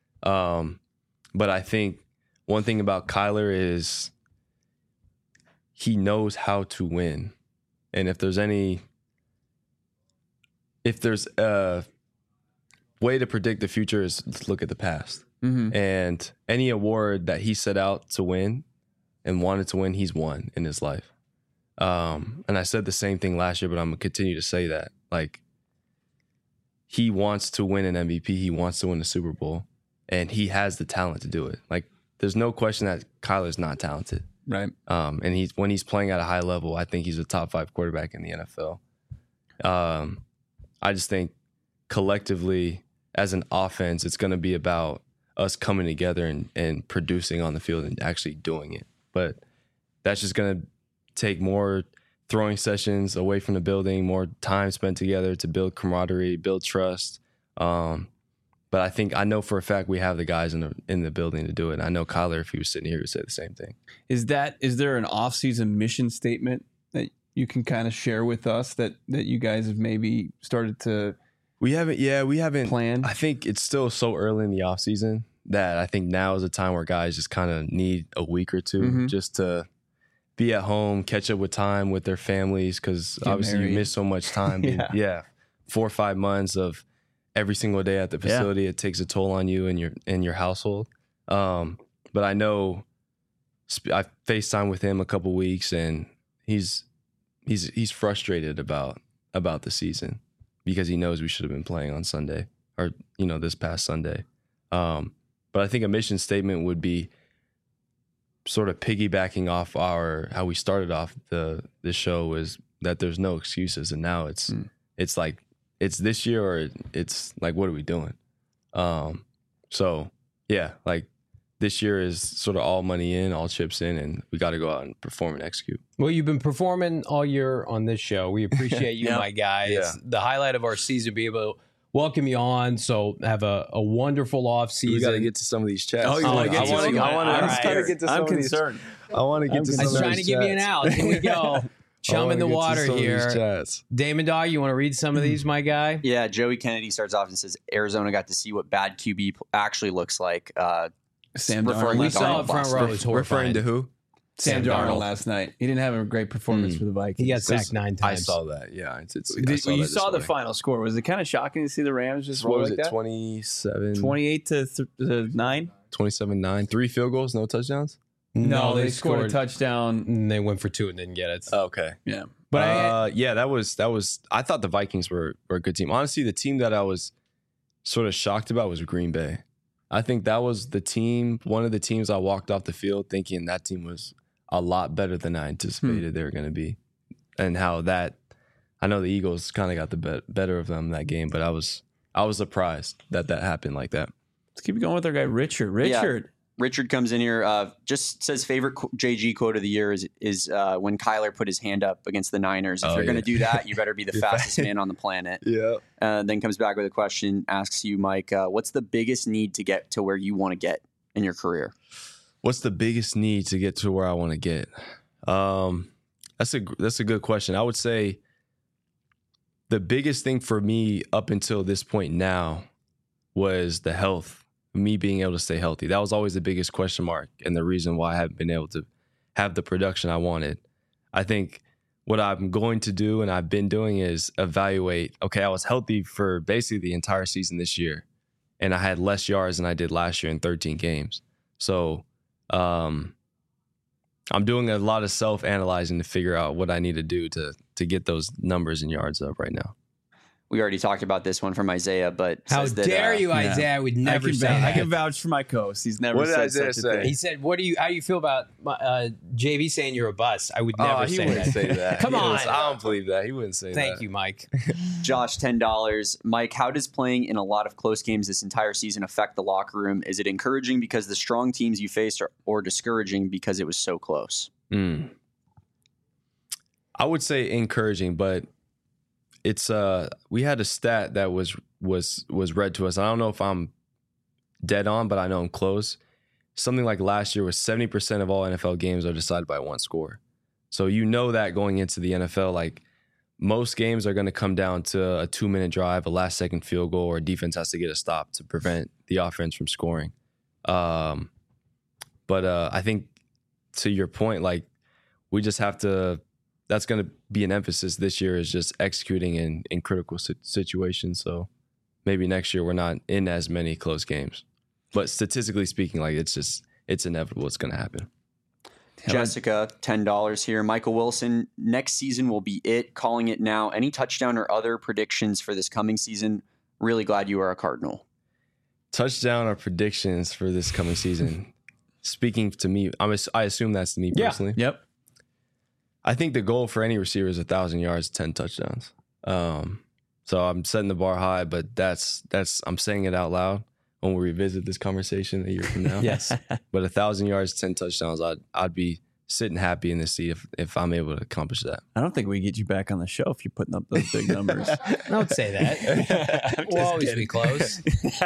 But I think one thing about Kyler is he knows how to win. And if there's a way to predict the future is let's look at the past. And any award that he set out to win and wanted to win, he's won in his life. And I said the same thing last year, but I'm going to continue to say that. Like, he wants to win an MVP. He wants to win the Super Bowl. and he has the talent to do it. Like, there's no question that Kyler's not talented. Right. And when he's playing at a high level, I think he's a top 5 quarterback in the NFL. I just think collectively as an offense, it's going to be about us coming together and producing on the field and actually doing it. But that's just going to take more throwing sessions away from the building, more time spent together to build camaraderie, build trust. But I know for a fact we have the guys in the building to do it. And I know Kyler, if he was sitting here, would say the same thing. Is there an off-season mission statement that you can kind of share with us that you guys have maybe started to? We haven't planned. I think it's still so early in the off season that I think now is a time where guys just kind of need a week or two just to be at home, catch up with time with their families, because obviously you miss so much time. 4 or 5 months of every single day at the facility. It takes a toll on you and your household. But I know I FaceTime with him a couple weeks, and he's frustrated about the season because he knows we should have been playing on Sunday or this past Sunday. But I think a mission statement would be sort of piggybacking off how we started off the show, is that there's no excuses, and now it's like it's this year or it's like, what are we doing? So yeah, like this year is sort of all money in, all chips in, and we got to go out and perform and execute. Well, you've been performing all year on this show. We appreciate you, my guy. Yeah. It's the highlight of our season, be able to welcome you on. So have a wonderful off season. We got to get to some of these chats. Oh, you want to get to some? I'm concerned. I want to get to some of these chats. I was trying to give you an out. Here we go. Chum in the water here. Damon Dog, you want to read some of these, my guy? Yeah, Joey Kennedy starts off and says, Arizona got to see what bad QB actually looks like. Sam referring Darnold. We saw it front row. It was Referring horrifying. to who? Sam Darnold last night. He didn't have a great performance for the Vikings. He got sacked 9 times. I saw that. Yeah, You saw the final score. Was it kind of shocking to see the Rams just roll like that? 28 to 9? 27-9. 3 field goals, no touchdowns? No, they scored a touchdown. And they went for 2 and didn't get it. Okay. Yeah. But that was I thought the Vikings were a good team. Honestly, the team that I was sort of shocked about was Green Bay. I think that was one of the teams I walked off the field thinking that team was a lot better than I anticipated they were going to be. And how I know the Eagles kind of got the better of them that game, but I was surprised that happened like that. Let's keep going with our guy, Richard. Richard comes in here, just says favorite JG quote of the year is when Kyler put his hand up against the Niners. If you're going to do that, you better be the fastest man on the planet. Yeah. Then comes back with a question, asks you, Mike, what's the biggest need to get to where you want to get in your career? What's the biggest need to get to where I want to get? That's a good question. I would say the biggest thing for me up until this point now was the health. Me being able to stay healthy. That was always the biggest question mark and the reason why I haven't been able to have the production I wanted. I think what I'm going to do and I've been doing is evaluate, okay, I was healthy for basically the entire season this year, and I had less yards than I did last year in 13 games. So I'm doing a lot of self-analyzing to figure out what I need to do to get those numbers and yards up right now. We already talked about this one from Isaiah, but how dare you, Isaiah? I would never say that. I can vouch for my co-host. He's never said such a thing. He said, how do you feel about JV saying you're a bust? I would never say that. He wouldn't say that. Come on. I don't believe that. He wouldn't say that. Thank you, Mike. Josh, $10. Mike, how does playing in a lot of close games this entire season affect the locker room? Is it encouraging because the strong teams you faced or discouraging because it was so close? I would say encouraging, but it's we had a stat that was read to us. I don't know if I'm dead on, but I know I'm close. Something like last year was 70% of all NFL games are decided by one score. So that going into the NFL, like most games are going to come down to a 2-minute drive, a last second field goal, or a defense has to get a stop to prevent the offense from scoring. But I think to your point, like we just have to. That's going to be an emphasis this year, is just executing in critical situations. So maybe next year we're not in as many close games. But statistically speaking, like it's inevitable. It's going to happen. Jessica, $10 here. Michael Wilson, next season will be it. Calling it now. Any touchdown or other predictions for this coming season? Really glad you are a Cardinal. touchdown or predictions for this coming season. Speaking to me, I assume that's to me personally. Yep. I think the goal for any receiver is 1,000 yards, 10 touchdowns. So I'm setting the bar high, but I'm saying it out loud when we revisit this conversation a year from now. Yes. But 1,000 yards, 10 touchdowns, I'd be sitting happy in the seat if I'm able to accomplish that. I don't think we get you back on the show if you're putting up those big numbers. Don't say that. We'll always be close.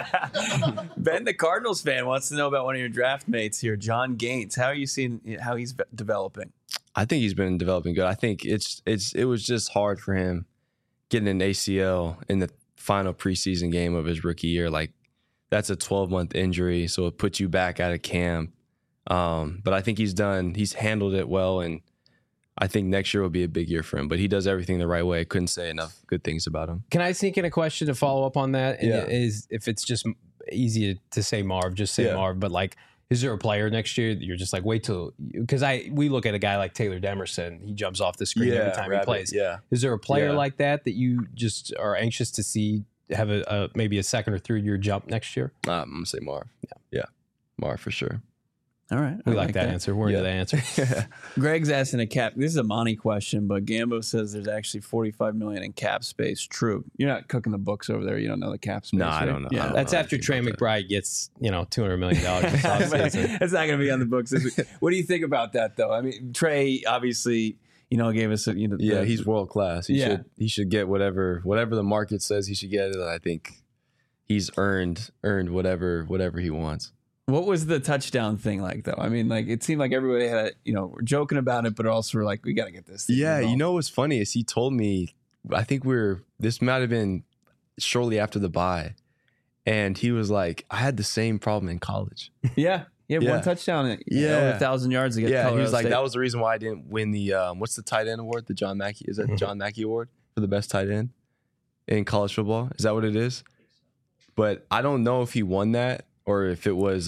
Ben, the Cardinals fan, wants to know about one of your draft mates here, John Gaines. How are you seeing how he's developing? I think he's been developing good. I think it was just hard for him getting an ACL in the final preseason game of his rookie year. Like, that's a 12-month injury, so it puts you back out of camp. But I think he's handled it well, and I think next year will be a big year for him. But he does everything the right way. I couldn't say enough good things about him. Can I sneak in a question to follow up on that? And Yeah. is if it's just easy to say Marv, just say Marv. But like, is there a player next year that you're just like, wait till, because we look at a guy like Taylor Demerson, he jumps off the screen every time he plays. Yeah. Is there a player Yeah. like that you just are anxious to see have a maybe a second or third year jump next year? I'm gonna say Marv. Yeah, Marv for sure. All right. We like that answer. We're into that answer. Greg's asking a cap. This is a Monty question, but Gambo says there's actually $45 million in cap space. True. You're not cooking the books over there. You don't know the cap space. No, I right? don't know. Yeah. I don't That's know after anything Trey about McBride gets $200 million. this offseason. That's not going to be on the books this week. What do you think about that, though? I mean, Trey obviously, gave us He's world class. Yeah. He should get whatever the market says he should get. I think he's earned whatever he wants. What was the touchdown thing like, though? I mean, like, it seemed like everybody had, we're joking about it, but also we're like, we got to get this thing involved. What's funny is he told me, I think this might have been shortly after the bye, and he was like, I had the same problem in college. Yeah. Yeah, Yeah. one touchdown over Yeah. 1,000 yards to get Yeah, he Colorado was like, State. that was the reason why I didn't win the what's the tight end award? The John Mackey, is that the John Mackey award for the best tight end in college football? Is that what it is? But I don't know if he won that or if it was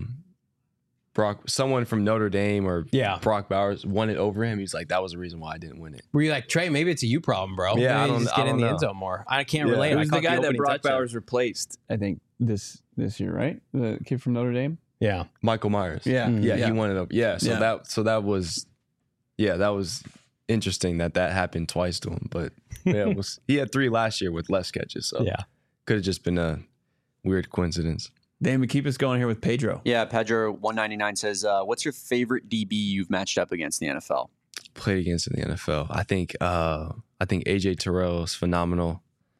someone from Notre Dame or Brock Bowers won it over him. He's like, that was the reason why I didn't win it. Were you like, Trey, maybe it's a you problem, bro? Yeah, maybe I just don't get in the know. end zone more. I can't Yeah. relate. It was I the caught guy that opening Brock touchdown. Bowers replaced, I think, this year, right? The kid from Notre Dame? Yeah. Michael Myers. Yeah. Yeah, he won it up. Yeah, so Yeah. that was interesting that happened twice to him. But yeah, he had 3 last year with less catches. So Yeah. could have just been a weird coincidence. Damon, keep us going here with Pedro. Yeah, Pedro 199 says, "What's your favorite DB you've matched up against in the NFL?" Played against in the NFL. I think AJ Terrell is phenomenal.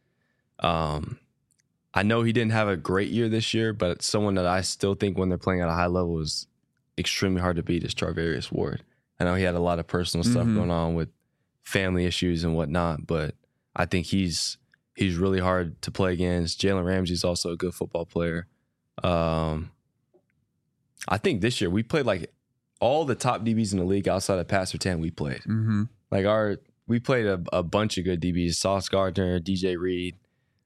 I know he didn't have a great year this year, but someone that I still think when they're playing at a high level is extremely hard to beat is Charvarius Ward. I know he had a lot of personal stuff going on with family issues and whatnot, but I think he's really hard to play against. Jalen Ramsey's also a good football player. I think this year we played like all the top DBs in the league outside of Pat Surtain. We played we played a bunch of good DBs: Sauce Gardner, DJ Reed,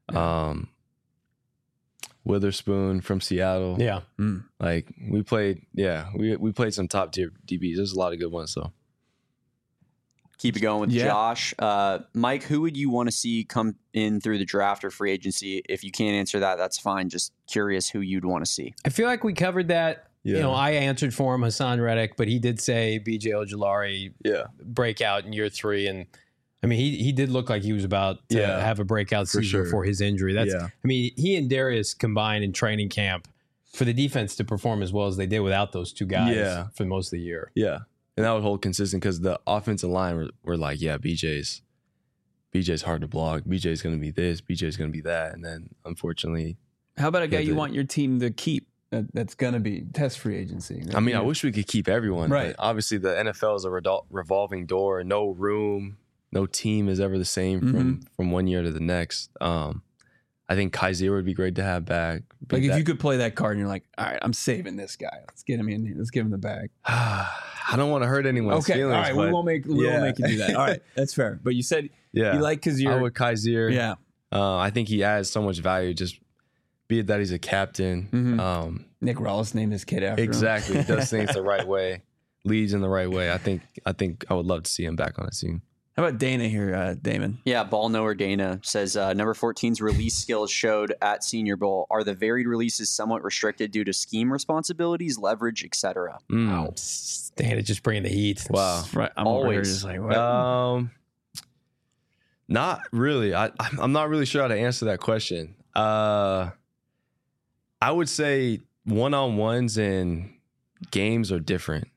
Witherspoon from Seattle. Yeah. Like we played some top tier DBs. There's a lot of good ones though. Keep it going with Yeah. Josh. Mike, who would you want to see come in through the draft or free agency? If you can't answer that, that's fine. Just curious who you'd want to see. I feel like we covered that. Yeah. I answered for him, Hassan Reddick, but he did say BJ Ojulari breakout in year 3. And I mean, he did look like he was about to have a breakout season sure. before his injury. I mean, he and Darius combined in training camp for the defense to perform as well as they did without those two guys for most of the year. Yeah. And that would hold consistent because the offensive line were like, BJ's hard to block. BJ's going to be this. BJ's going to be that. And then, unfortunately, How about a guy you want your team to keep that's going to be test free agency? I mean, I wish we could keep everyone. Right. But obviously, the NFL is a revolving door. No room. No team is ever the same from one year to the next. I think Kaiser would be great to have back. Like if you could play that card and you're like, all right, I'm saving this guy. Let's get him in here. Let's give him the bag. I don't want to hurt anyone's feelings. All right, we but won't make you do that. All right, that's fair. But you said you like because I you're would Kaiser. yeah. I think he adds so much value. Just be it that he's a captain. Nick Rollis named his kid after him. Exactly. Does things the right way. Leads in the right way. I think I would love to see him back on the team. How about Dana here, Damon? Yeah, ball knower Dana says number 14's release skills showed at Senior Bowl. Are the varied releases somewhat restricted due to scheme responsibilities, leverage, etc.? Wow. Dana just bringing the heat. Wow. Right, I'm over here just like, what? Not really. I'm not really sure how to answer that question. I would say one-on-ones and games are different.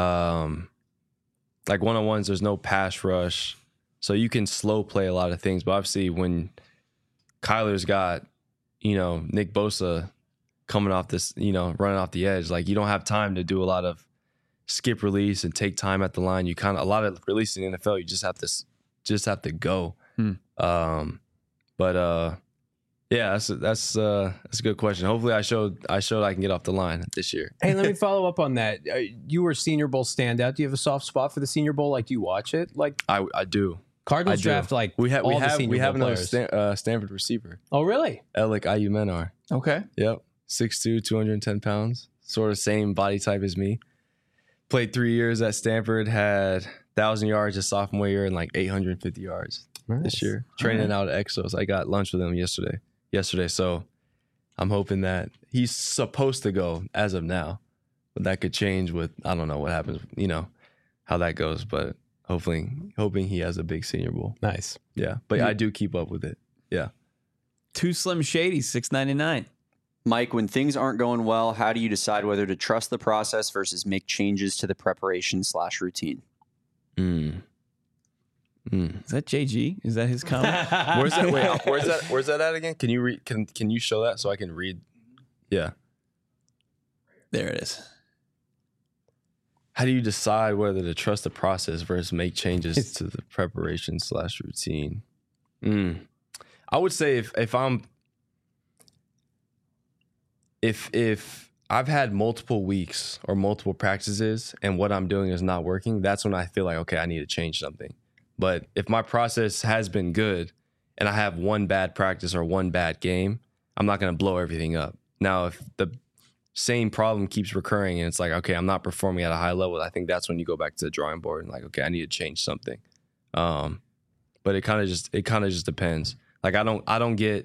Like one-on-ones, there's no pass rush, so you can slow play a lot of things. But obviously, when Kyler's got, Nick Bosa coming off this, running off the edge, like you don't have time to do a lot of skip release and take time at the line. You a lot of releasing in the NFL, you just have to go. Yeah, that's a good question. Hopefully, I showed I can get off the line this year. Hey, let me follow up on that. You were Senior Bowl standout. Do you have a soft spot for the Senior Bowl? Like, do you watch it? Like, I do. Cardinals draft like we have another players. Stanford receiver. Oh, really? Alec Ayumenar. Okay. Yep, 6'2", 210 pounds. Sort of same body type as me. Played 3 years at Stanford. Had 1,000 yards his sophomore year and like 850 yards this year. Training out at Exos. I got lunch with him yesterday. So I'm hoping that he's supposed to go as of now, but that could change with, I don't know what happens, how that goes, but hoping he has a big Senior Bowl. Nice. Yeah. But I do keep up with it. Yeah. Two Slim Shadys, $6.99. Mike, when things aren't going well, how do you decide whether to trust the process versus make changes to the preparation/routine? Is that JG? Is that his comment? Where's that at again? Can you read? Can you show that so I can read? Yeah. There it is. How do you decide whether to trust the process versus make changes to the preparation/routine? I would say if I've had multiple weeks or multiple practices and what I'm doing is not working, that's when I feel like, okay, I need to change something. But if my process has been good and I have one bad practice or one bad game, I'm not going to blow everything up. Now, if the same problem keeps recurring and it's like, okay, I'm not performing at a high level, I think that's when you go back to the drawing board and like, okay, I need to change something. But it kind of just depends. Like I don't get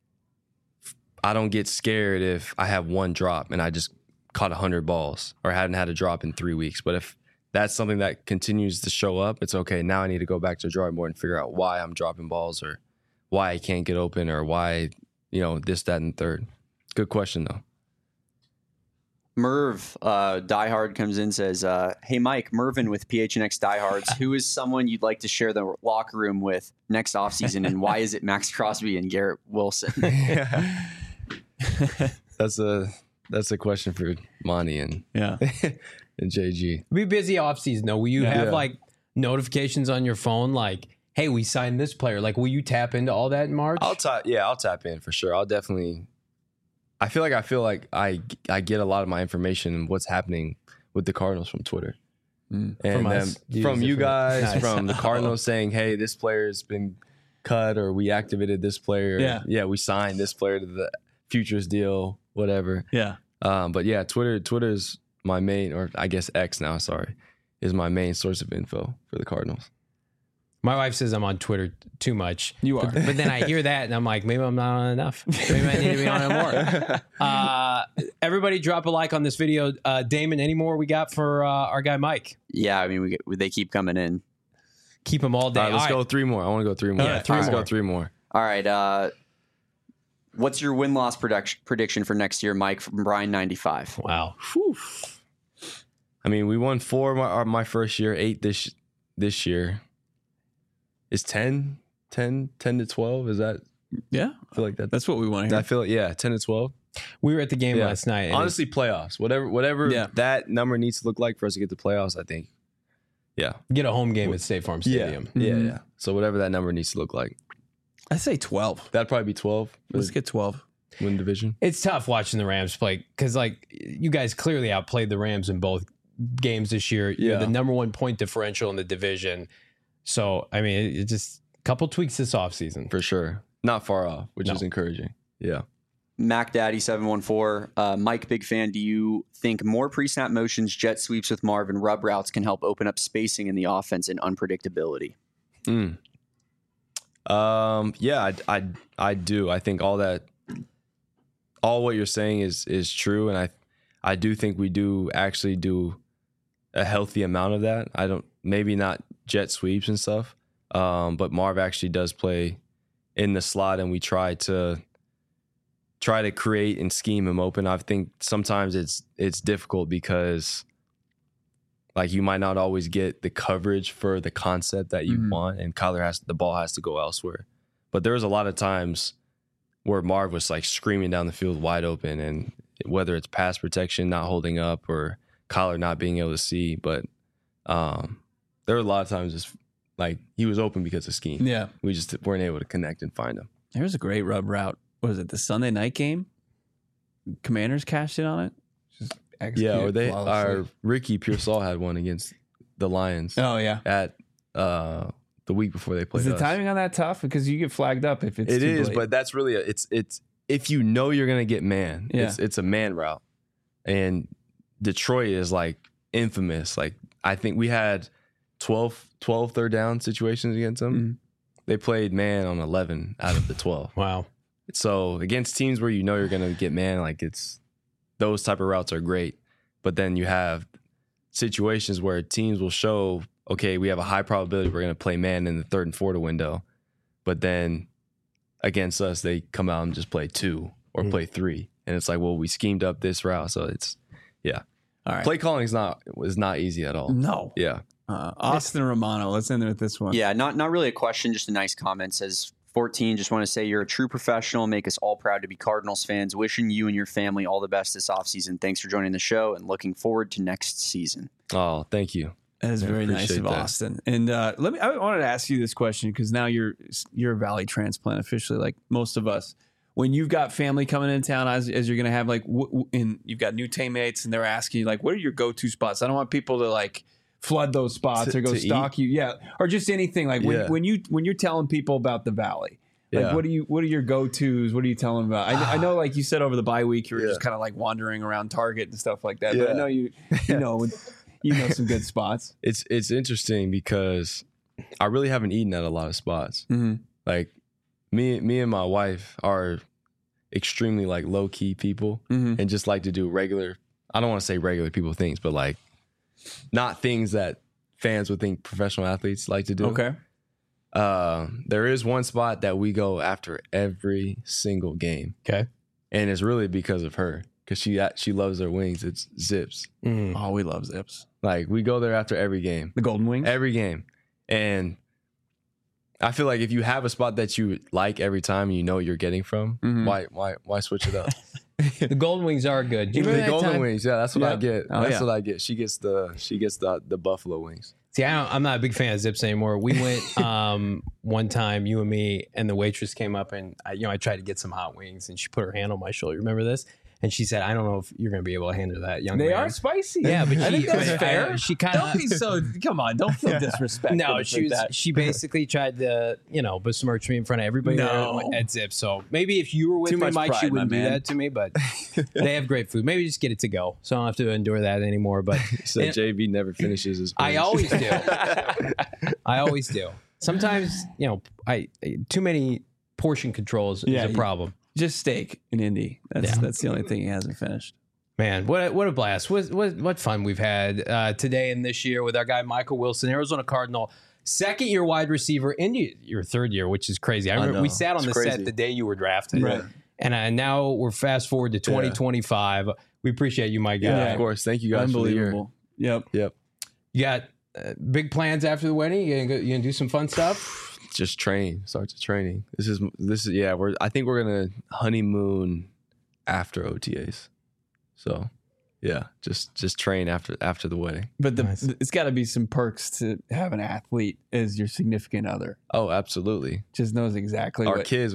scared if I have one drop and I just caught 100 balls or hadn't had a drop in 3 weeks. But if that's something that continues to show up, it's okay. Now I need to go back to the drawing board and figure out why I'm dropping balls or why I can't get open or why, this, that, and third. Good question, though. Merv, Diehard comes in, says, hey, Mike, Mervin with PHNX Diehards. Who is someone you'd like to share the locker room with next offseason, and why is it Max Crosby and Garrett Wilson? That's a question for Monty and and JG. Be busy offseason though. Will you have like notifications on your phone like, hey, we signed this player? Like, will you tap into all that in March? I'll tap in for sure. I'll definitely. I feel like I get a lot of my information and what's happening with the Cardinals from Twitter. And from you guys, nice. From the Cardinals saying, hey, this player's been cut or we activated this player. Yeah, we signed this player to the futures deal, whatever. Yeah. But yeah, Twitter's my main, or I guess X now, is my main source of info for the Cardinals. My wife says I'm on Twitter too much. You are. But then I hear that and I'm like, maybe I'm not on enough. Maybe I need to be on it more. Everybody drop a like on this video. Damon, any more we got for our guy Mike? Yeah, I mean, they keep coming in. Keep them all day. All right, let's go 3 more. I want to go 3 more. Yeah, let's go 3 more. All right. What's your win-loss prediction for next year, Mike, from Brian95? Wow. Whew. I mean, we won 4 my first year, 8 this year. Is 10 to 12? Is that? Yeah. I feel like that. That's what we want to hear. I feel 10 to 12. We were at the game last night. Honestly, playoffs. Whatever that number needs to look like for us to get to playoffs, I think. Yeah. Get a home game at State Farm Stadium. Yeah. So whatever that number needs to look like. I say 12. That'd probably be 12. Let's get 12. Win division. It's tough watching the Rams play because, like, you guys clearly outplayed the Rams in both games this year. You're the number 1 point differential in the division. So, I mean, it's just a couple tweaks this offseason. For sure. Not far off, which is encouraging. Yeah. MacDaddy714. Mike, big fan. Do you think more pre-snap motions, jet sweeps with Marvin, rub routes can help open up spacing in the offense and unpredictability? Yeah, I do. I think all what you're saying is true, and I do think we do actually do a healthy amount of that. Maybe not jet sweeps and stuff, but Marv actually does play in the slot, and we try to create and scheme him open. I think sometimes it's difficult because like you might not always get the coverage for the concept that you want, and the ball has to go elsewhere. But there was a lot of times where Marv was like screaming down the field wide open, and whether it's pass protection not holding up or Kyler not being able to see, but there were a lot of times just like he was open because of scheme. Yeah, we just weren't able to connect and find him. There's a great rub route. Was it the Sunday night game? Commanders cashed in on it. Just or Ricky Pearsall had one against the Lions. Oh yeah, at the week before they played. Is the timing on that tough? Because you get flagged up if it's too late. But that's really it's if you know you're gonna get man, it's a man route, and Detroit is like infamous. Like I think we had 12 third down situations against them. Mm-hmm. They played man on 11 out of the 12. Wow. So against teams where you know you're gonna get man, like those type of routes are great. But then you have situations where teams will show, okay, we have a high probability we're going to play man in the 3rd and 4th window. But then against us, they come out and just play 2 or play 3. And it's like, well, we schemed up this route. So it's, yeah. All right. Play calling is not easy at all. No. Yeah. Austin Romano, let's end with this one. Yeah, not really a question, just a nice comment. Says 14, just want to say you're a true professional. Make us all proud to be Cardinals fans. Wishing you and your family all the best this offseason. Thanks for joining the show and looking forward to next season. Oh, thank you. That is very nice of Austin. And I wanted to ask you this question because now you're a Valley transplant officially, like most of us. When you've got family coming in town, as you're going to have like, and you've got new teammates, and they're asking you like, what are your go-to spots? I don't want people to like flood those spots or go stalk you, or just anything like when you're telling people about the Valley. Like, what are your go-tos? What are you telling them about? I know, like you said over the bye week, you were just kind of like wandering around Target and stuff like that. But I know you know some good spots. It's interesting because I really haven't eaten at a lot of spots. Mm-hmm. Like me and my wife are extremely like low key people and just like to do regular. I don't want to say regular people things, but like not things that fans would think professional athletes like to do. Okay. There is one spot that we go after every single game. Okay. And it's really because of her. Because she loves her wings. It's Zips. Mm. Oh, we love Zips. Like, we go there after every game. The Golden Wings? Every game. And I feel like if you have a spot that you like every time and you know what you're getting from, why switch it up? The Golden Wings are good. The Golden Wings, that's what I get. That's what I get. She gets the buffalo wings. See, I'm not a big fan of Zips anymore. We went one time, you and me, and the waitress came up and I tried to get some hot wings, and she put her hand on my shoulder. Remember this? And she said, "I don't know if you're going to be able to handle that, young man." They are spicy. Yeah, but I think that's fair. She kind of don't be so. Come on, don't feel disrespectful. No, she basically tried to besmirch me in front of everybody at Zips. So maybe if you were with me, Mike, she wouldn't do that to me. But they have great food. Maybe just get it to go, so I don't have to endure that anymore. But so JV never finishes his. I always do. I always do. Sometimes too many portion controls is a problem. Just steak in Indy. That's the only thing he hasn't finished. Man, what a blast. What fun we've had today and this year with our guy Michael Wilson, Arizona Cardinal, second-year wide receiver in your third year, which is crazy. I remember we sat on the set the day you were drafted. Right. And now we're fast forward to 2025. We appreciate you, my guy. Yeah, of course. Thank you guys. Unbelievable. For the year. Yep. You got big plans after the wedding? You gonna do some fun stuff? Just train. Start to training. This is I think we're gonna honeymoon after OTAs. So yeah, just train after the wedding. But it's got to be some perks to have an athlete as your significant other. Oh, absolutely. Just knows exactly our kids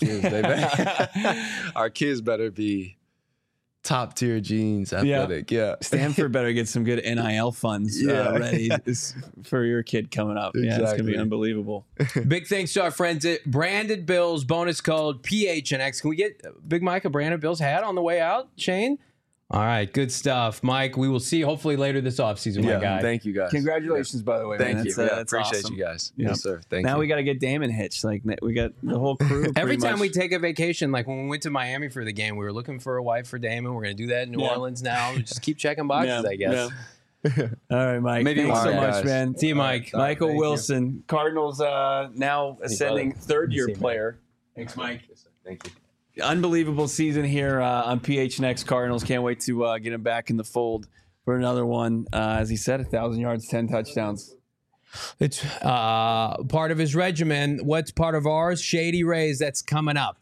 our kids better be top tier genes, athletic. Yeah. Stanford better get some good NIL funds ready for your kid coming up. Exactly. Yeah, it's going to be unbelievable. Big thanks to our friends at Branded Bills, bonus code PHNX. Can we get Big Mike a Branded Bills hat on the way out, Shane? All right, good stuff. Mike, we will see you hopefully later this offseason, my guy. Thank you, guys. Congratulations, by the way. Thank man. you. That's Appreciate awesome. you guys. Yeah. Yes, sir. Thank you. Now we got to get Damon hitched. Like we got the whole crew. Every pretty time much. we take a vacation, like when we went to Miami for the game, we were looking for a wife for Damon. We're going to do that in New Orleans now. We just keep checking boxes, I guess. Yeah. All right, Mike. Maybe Thanks one so day, much, guys. man. See you, Mike. Michael Thank you. Wilson, Cardinals now ascending third-year See you, man. player. Thanks, Mike. Yes, sir. Thank you. Unbelievable season here on PHNX Cardinals. Can't wait to get him back in the fold for another one. As he said, 1,000 yards, 10 touchdowns. It's part of his regimen. What's part of ours? Shady Rays. That's coming up.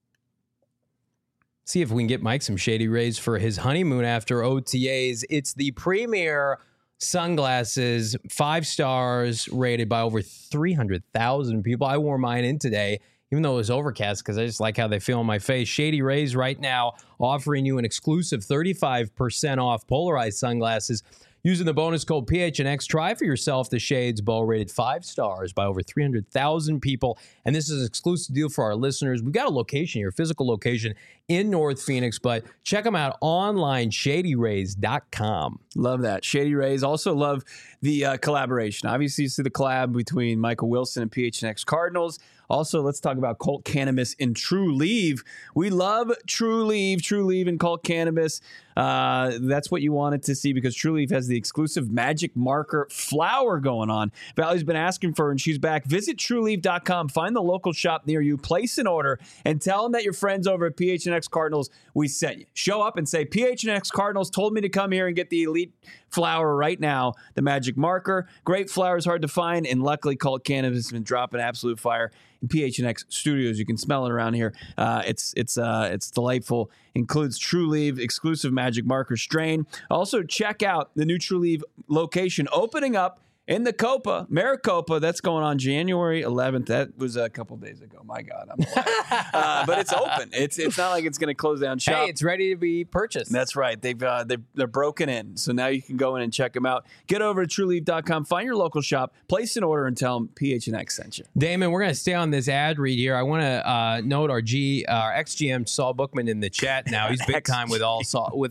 See if we can get Mike some Shady Rays for his honeymoon after OTAs. It's the premier sunglasses, 5 stars, rated by over 300,000 people. I wore mine in today, even though it was overcast, because I just like how they feel on my face. Shady Rays right now offering you an exclusive 35% off polarized sunglasses using the bonus code PHNX. Try for yourself the Shades Bow, rated 5 stars by over 300,000 people. And this is an exclusive deal for our listeners. We've got a location here, physical location in North Phoenix, but check them out online, shadyrays.com. Love that. Shady Rays. Also love the collaboration. Obviously, you see the collab between Michael Wilson and PHNX Cardinals. Also, let's talk about Colt Cannabis and True Leave. We love True Leave and Colt Cannabis. That's what you wanted to see because True Leave has the exclusive magic marker flower going on. Valley's been asking for her, and she's back. Visit TrueLeave.com. Find the local shop near you. Place an order and tell them that your friends over at PHNX Cardinals, we sent you. Show up and say, PHNX Cardinals told me to come here and get the elite flower right now, the magic marker. Great flower is hard to find, and luckily Colt Cannabis has been dropping absolute fire in PHNX studios. You can smell it around here. It's delightful. Includes True Leave, exclusive magic marker strain. Also, check out the new True Leave location opening up in the Copa, Maricopa. That's going on January 11th. That was a couple days ago. My God, I'm alive. But it's open. It's not like it's going to close down shop. Hey, it's ready to be purchased. That's right. They're broken in. So now you can go in and check them out. Get over to TrueLeave.com. Find your local shop. Place an order and tell them PHNX sent you. Damon, we're going to stay on this ad read here. I want to note our ex-GM Saul Bookman in the chat now. He's big time with all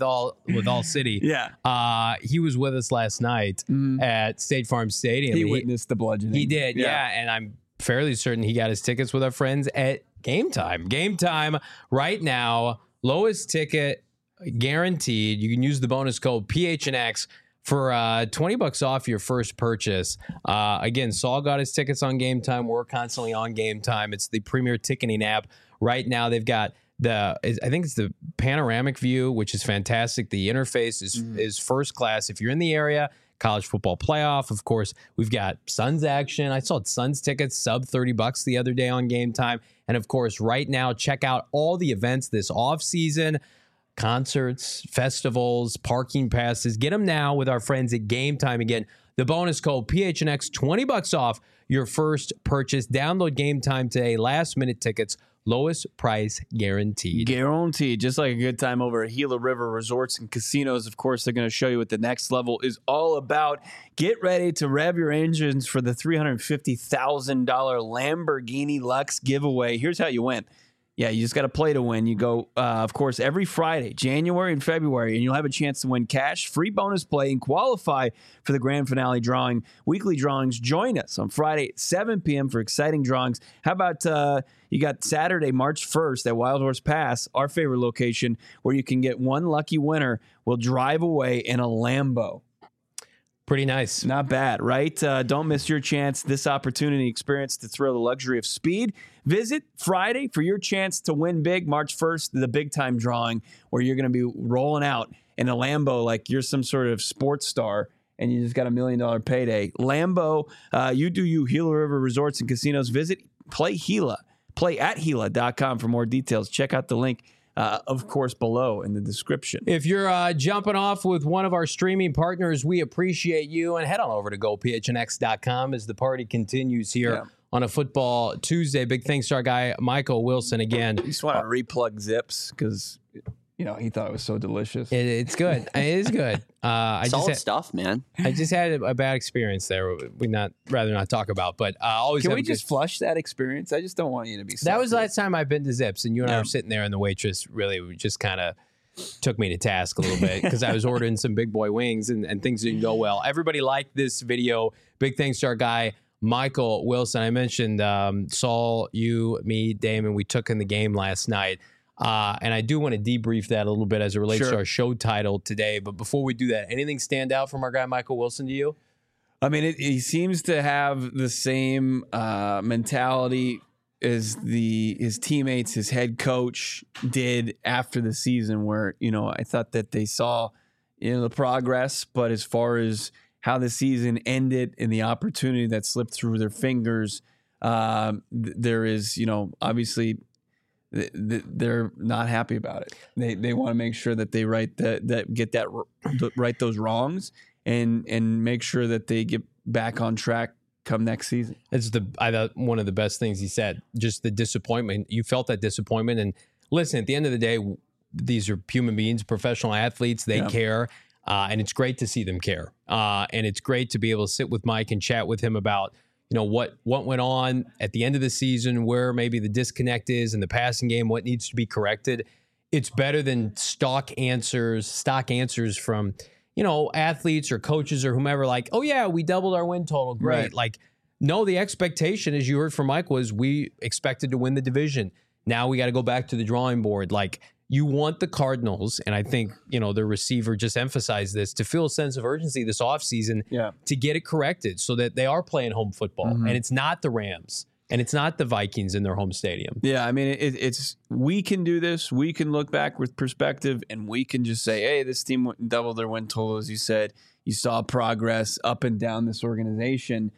City. Yeah. He was with us last night at State Farm Stadium. He witnessed the bludgeoning. He did, yeah. And I'm fairly certain he got his tickets with our friends at Game Time. Game Time right now, lowest ticket guaranteed. You can use the bonus code PHNX for $20 off your first purchase. Again, Saul got his tickets on Game Time. We're constantly on Game Time. It's the premier ticketing app. Right now, they've got I think it's the panoramic view, which is fantastic. The interface is first class. If you're in the area, college football playoff, of course, we've got Suns action. I saw Suns tickets sub $30 the other day on Game Time. And of course, right now, check out all the events this off season. Concerts, festivals, parking passes. Get them now with our friends at Game Time. Again, the bonus code PHNX, $20 off your first purchase. Download Game Time today. Last minute tickets, lowest price guaranteed. Guaranteed. Just like a good time over at Gila River Resorts and Casinos. Of course, they're going to show you what the next level is all about. Get ready to rev your engines for the $350,000 Lamborghini Lux giveaway. Here's how you win. Yeah, you just got to play to win. You go, of course, every Friday, January and February, and you'll have a chance to win cash, free bonus play, and qualify for the grand finale drawing. Weekly drawings. Join us on Friday at 7 p.m. for exciting drawings. How about you got Saturday, March 1st at Wild Horse Pass, our favorite location, where you can get one lucky winner will drive away in a Lambo. Pretty nice. Not bad, right? Don't miss your chance. This opportunity, experience the thrill, the luxury of speed. Visit Friday for your chance to win big. March 1st, the big time drawing where you're going to be rolling out in a Lambo like you're some sort of sports star and you just got $1 million payday. Lambo, you do you. Gila River Resorts and Casinos. Visit Play Gila. Play at Gila.com for more details. Check out the link. Of course, below in the description. If you're jumping off with one of our streaming partners, we appreciate you. And head on over to GoPHNX.com as the party continues here on a Football Tuesday. Big thanks to our guy, Michael Wilson, again. You just want to replug Zips because, he thought it was so delicious. It's good. It is good. Solid stuff, man. I just had a bad experience there. We'd rather not talk about, but always. Can we just flush that experience? I just don't want you to be. That was the last time I've been to Zips, and you and I were sitting there, and the waitress really just kind of took me to task a little bit because I was ordering some big boy wings and things didn't go well. Everybody liked this video. Big thanks to our guy, Michael Wilson. I mentioned Saul, you, me, Damon, we took in the game last night. And I do want to debrief that a little bit as it relates to our show title today. But before we do that, anything stand out from our guy, Michael Wilson, to you? I mean, he seems to have the same mentality as his teammates, his head coach did after the season, where, I thought that they saw, the progress, but as far as how the season ended and the opportunity that slipped through their fingers, there is, obviously they're not happy about it. They want to make sure that they right those wrongs and make sure that they get back on track come next season. It's I thought one of the best things he said, just the disappointment. You felt that disappointment. And listen, at the end of the day, these are human beings, professional athletes. They care. And it's great to see them care. And it's great to be able to sit with Mike and chat with him about, what went on at the end of the season, where maybe the disconnect is in the passing game, what needs to be corrected. It's better than stock answers from, athletes or coaches or whomever, like, oh yeah, we doubled our win total. Great. Right. Like, no, the expectation, as you heard from Mike, was we expected to win the division. Now we got to go back to the drawing board. Like, you want the Cardinals, and I think, their receiver just emphasized this, to feel a sense of urgency this offseason to get it corrected so that they are playing home football. And it's not the Rams and it's not the Vikings in their home stadium. Yeah, I mean, it's we can do this. We can look back with perspective, and we can just say, hey, this team doubled their win total, as you said. You saw progress up and down this organization.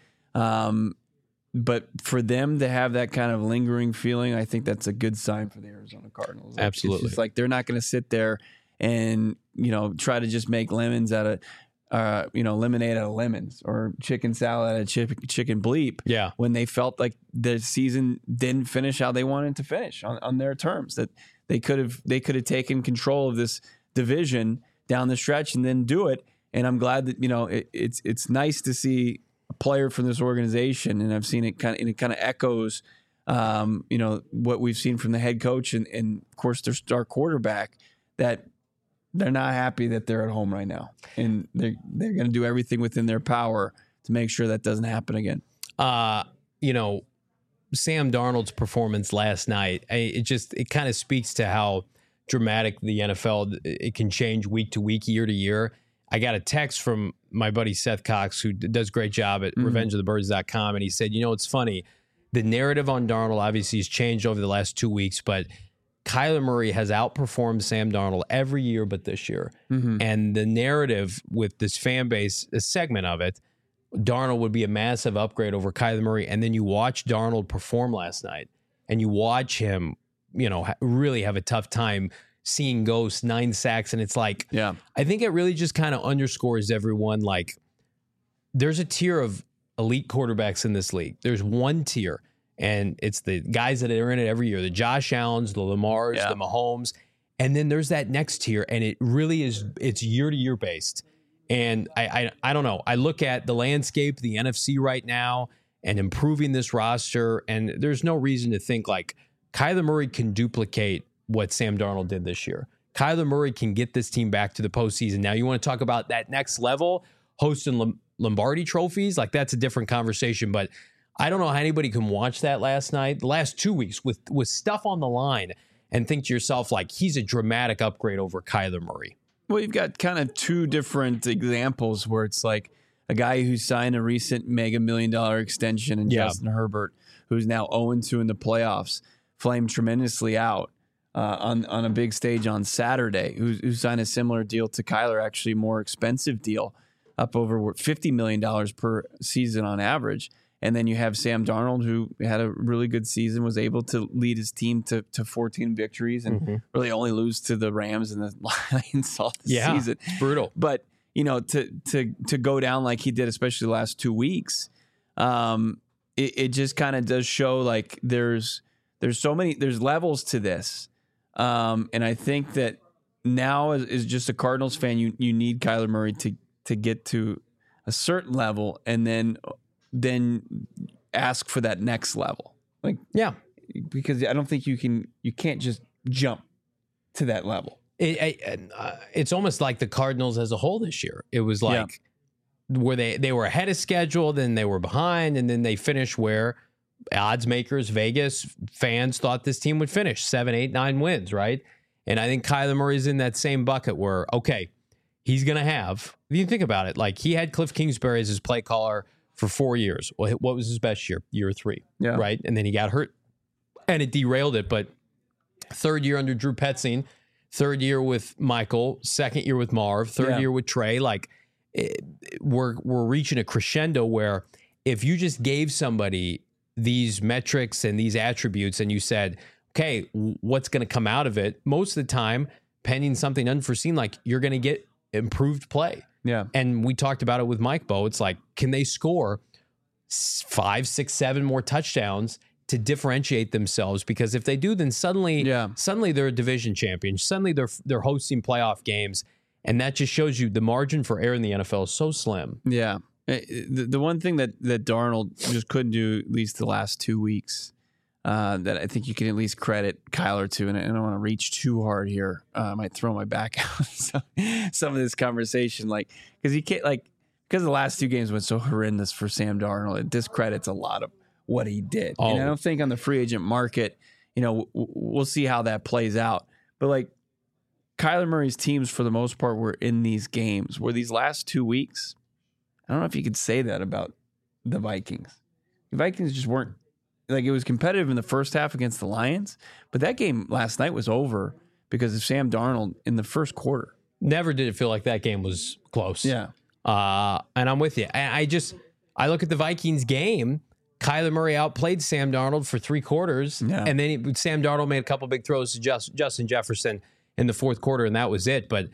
But for them to have that kind of lingering feeling, I think that's a good sign for the Arizona Cardinals. Like, absolutely. It's just like they're not going to sit there and, try to just make lemons out of, lemonade out of lemons, or chicken salad out of chicken bleep. Yeah. When they felt like the season didn't finish how they wanted to finish on their terms, that they could have taken control of this division down the stretch and then do it. And I'm glad that, it's nice to see a player from this organization, and I've seen it kind of echoes, what we've seen from the head coach and of course their star quarterback, that they're not happy that they're at home right now, and they're going to do everything within their power to make sure that doesn't happen again. Sam Darnold's performance last night, it kind of speaks to how dramatic the NFL, it can change week to week, year to year. I got a text from my buddy Seth Cox, who does a great job at revengeofthebirds.com, and he said, it's funny. The narrative on Darnold obviously has changed over the last 2 weeks, but Kyler Murray has outperformed Sam Darnold every year but this year. And the narrative with this fan base, a segment of it, Darnold would be a massive upgrade over Kyler Murray. And then you watch Darnold perform last night, and you watch him, really have a tough time seeing ghosts, 9 sacks. And it's like, I think it really just kind of underscores everyone. Like, there's a tier of elite quarterbacks in this league. There's one tier, and it's the guys that are in it every year, the Josh Allens, the Lamars, the Mahomes. And then there's that next tier, and it really is, it's year to year based. And I don't know. I look at the landscape, the NFC right now, and improving this roster, and there's no reason to think like Kyler Murray can duplicate what Sam Darnold did this year. Kyler Murray can get this team back to the postseason. Now, you want to talk about that next level, hosting Lombardi trophies? Like, that's a different conversation. But I don't know how anybody can watch that last night, the last 2 weeks with stuff on the line, and think to yourself, like, he's a dramatic upgrade over Kyler Murray. Well, you've got kind of two different examples where it's like a guy who signed a recent mega $1 million extension, and Justin Herbert, who's now 0-2 in the playoffs, flamed tremendously out on a big stage on Saturday, who signed a similar deal to Kyler, actually more expensive deal, up over $50 million per season on average. And then you have Sam Darnold, who had a really good season, was able to lead his team to 14 victories, and really only lose to the Rams and the Lions all the season. It's brutal. But, to go down like he did, especially the last 2 weeks, it just kind of does show like there's levels to this. And I think that now as just a Cardinals fan, you need Kyler Murray to get to a certain level, and then ask for that next level. Because I don't think you can't just jump to that level. It's almost like the Cardinals as a whole this year. It was like where they were ahead of schedule, then they were behind, and then they finished where odds makers, Vegas fans thought this team would finish 7, 8, 9 wins, right? And I think Kyler Murray's in that same bucket where, okay, he's going to have, if you think about it, like he had Cliff Kingsbury as his play caller for 4 years. Well, what was his best year? Year 3, right? And then he got hurt and it derailed it. But third year under Drew Petzing, third year with Michael, second year with Marv, third year with Trey. Like we're reaching a crescendo where if you just gave somebody these metrics and these attributes and you said, okay, what's going to come out of it? Most of the time, pending something unforeseen, like you're going to get improved play. Yeah. And we talked about it with Mike Bowe. It's like, can they score 5, 6, 7 more touchdowns to differentiate themselves? Because if they do, then suddenly they're a division champion. Suddenly they're hosting playoff games. And that just shows you the margin for error in the NFL is so slim. Yeah. The one thing that Darnold just couldn't do, at least the last 2 weeks, that I think you can at least credit Kyler to, and I don't want to reach too hard here. I might throw my back out some of this conversation, like because you can't because the last 2 games went so horrendous for Sam Darnold. It discredits a lot of what he did. Oh. And I don't think on the free agent market, we'll see how that plays out. But like Kyler Murray's teams, for the most part, were in these games. Where these last 2 weeks, I don't know if you could say that about the Vikings. The Vikings just weren't, like, it was competitive in the first half against the Lions, but that game last night was over because of Sam Darnold in the first quarter. Never did it feel like that game was close. Yeah. And I'm with you. I look at the Vikings game. Kyler Murray outplayed Sam Darnold for 3 quarters, and then Sam Darnold made a couple big throws to Justin Jefferson in the fourth quarter, and that was it. But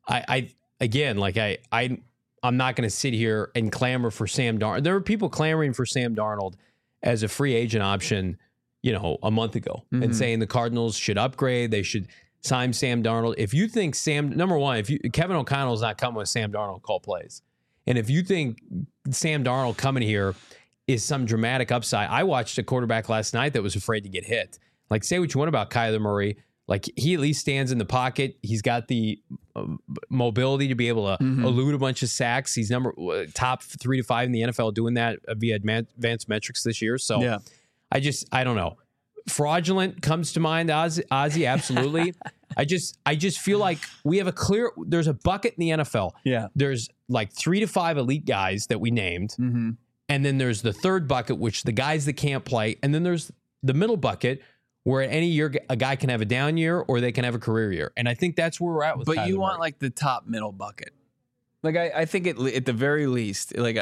I'm not going to sit here and clamor for Sam Darnold. There were people clamoring for Sam Darnold as a free agent option, a month ago, and saying the Cardinals should upgrade. They should sign Sam Darnold. If you think number one, Kevin O'Connell's not coming with Sam Darnold call plays, and if you think Sam Darnold coming here is some dramatic upside, I watched a quarterback last night that was afraid to get hit. Like, say what you want about Kyler Murray. Like, he at least stands in the pocket. He's got the mobility to be able to elude a bunch of sacks. He's top 3 to 5 in the NFL doing that via advanced metrics this year. So I don't know. Fraudulent comes to mind, Ozzie, absolutely. I just feel like we have there's a bucket in the NFL. Yeah. There's like 3 to 5 elite guys that we named. And then there's the third bucket, which the guys that can't play. And then there's the middle bucket, where any year a guy can have a down year or they can have a career year. And I think that's where we're at with Kyler you want Murray. like the top middle bucket. Like I think at the very least, like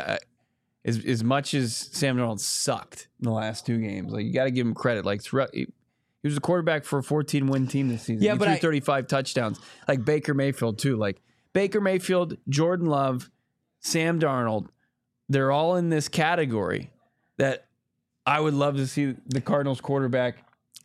as much as Sam Darnold sucked in the last 2 games, like you got to give him credit. Like he was a quarterback for a 14-win team this season. Yeah, he threw 35 touchdowns. Like Baker Mayfield too. Like Baker Mayfield, Jordan Love, Sam Darnold, they're all in this category that I would love to see the Cardinals quarterback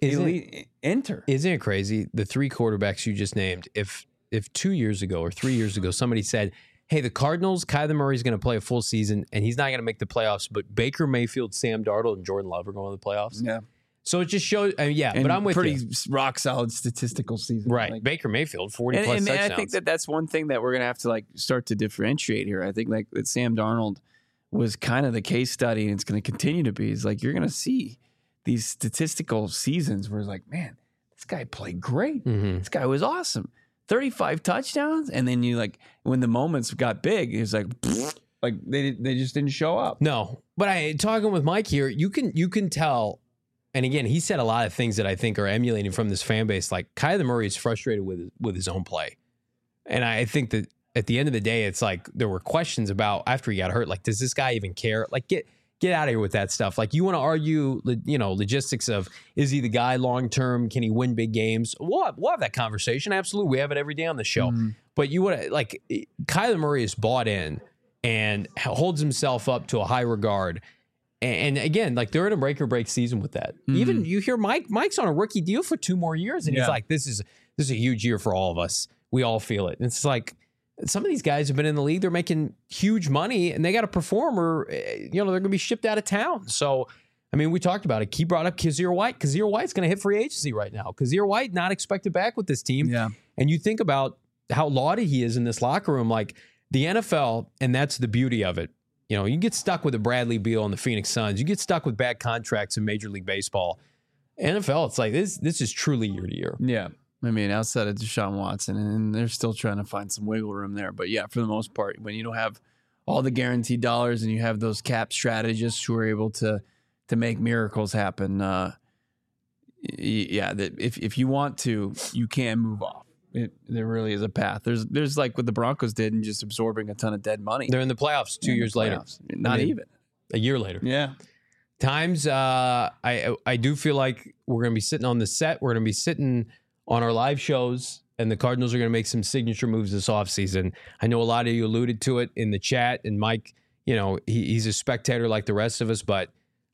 enter. Isn't it crazy? The 3 quarterbacks you just named, if 2 years ago or 3 years ago, somebody said, hey, the Cardinals, Kyler Murray's going to play a full season and he's not going to make the playoffs, but Baker Mayfield, Sam Darnold, and Jordan Love are going to the playoffs. Yeah. So it just shows, but I'm with pretty you. Rock solid statistical season. Right. Like, Baker Mayfield, 40 plus touchdowns. And I think that's one thing that we're going to have to like start to differentiate here. I think like that Sam Darnold was kind of the case study, and it's going to continue to be. Is like you're going to see these statistical seasons where it's like, man, this guy played great. This guy was awesome. 35 touchdowns. And then you like, when the moments got big, it was like they just didn't show up. No, but talking with Mike here, you can tell. And again, he said a lot of things that I think are emulating from this fan base. Like Kyler Murray is frustrated with his own play. And I think that at the end of the day, it's like there were questions about after he got hurt, like, does this guy even care? Like, get out of here with that stuff. Like, you want to argue, logistics of, is he the guy long-term? Can he win big games? We'll have that conversation. Absolutely. We have it every day on the show. But you want to, like, Kyler Murray is bought in and holds himself up to a high regard. And again, like, they're in a make or break season with that. Even you hear Mike's on a rookie deal for 2 more years. And he's like, this is a huge year for all of us. We all feel it. And it's like, some of these guys have been in the league. They're making huge money and they got to perform or, they're going to be shipped out of town. So I mean, we talked about it. He brought up Kazir White. Kazir White's going to hit free agency right now. Kazir White not expected back with this team. Yeah. And you think about how lauded he is in this locker room. Like the NFL, and that's the beauty of it. You know, you get stuck with a Bradley Beal and the Phoenix Suns. You get stuck with bad contracts in Major League Baseball. NFL, it's like this is truly year to year. Yeah. I mean, outside of Deshaun Watson, and they're still trying to find some wiggle room there. But yeah, for the most part, when you don't have all the guaranteed dollars and you have those cap strategists who are able to make miracles happen, if you want to, you can move off. There really is a path. There's like what the Broncos did and just absorbing a ton of dead money. They're in the playoffs 2 years later. Not even. A year later. Yeah. Times, I do feel like we're going to be sitting on the set. We're going to be sitting on our live shows, and the Cardinals are going to make some signature moves this offseason. I know a lot of you alluded to it in the chat, and Mike, you know, he's a spectator like the rest of us, but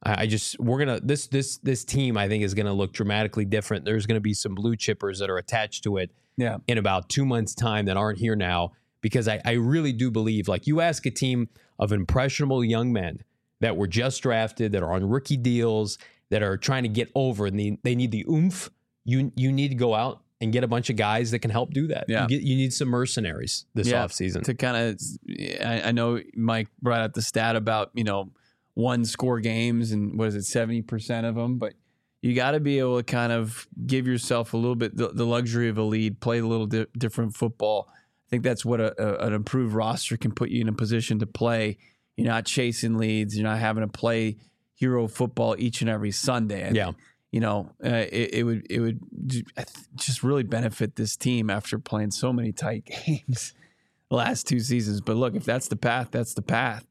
this team, I think, is going to look dramatically different. There's going to be some blue chippers that are attached to it in about 2 months' time that aren't here now, because I really do believe, like, you ask a team of impressionable young men that were just drafted, that are on rookie deals, that are trying to get over, and they need the oomph. You need to go out and get a bunch of guys that can help do that. Yeah. You need some mercenaries this offseason. To kind of, I know Mike brought up the stat about, you know, one score games and what is it, 70% of them, but you got to be able to kind of give yourself a little bit the luxury of a lead, play a little different football. I think that's what an improved roster can put you in a position to play. You're not chasing leads. You're not having to play hero football each and every Sunday. You know, it would just really benefit this team after playing so many tight games the last 2 seasons. But look, if that's the path, that's the path.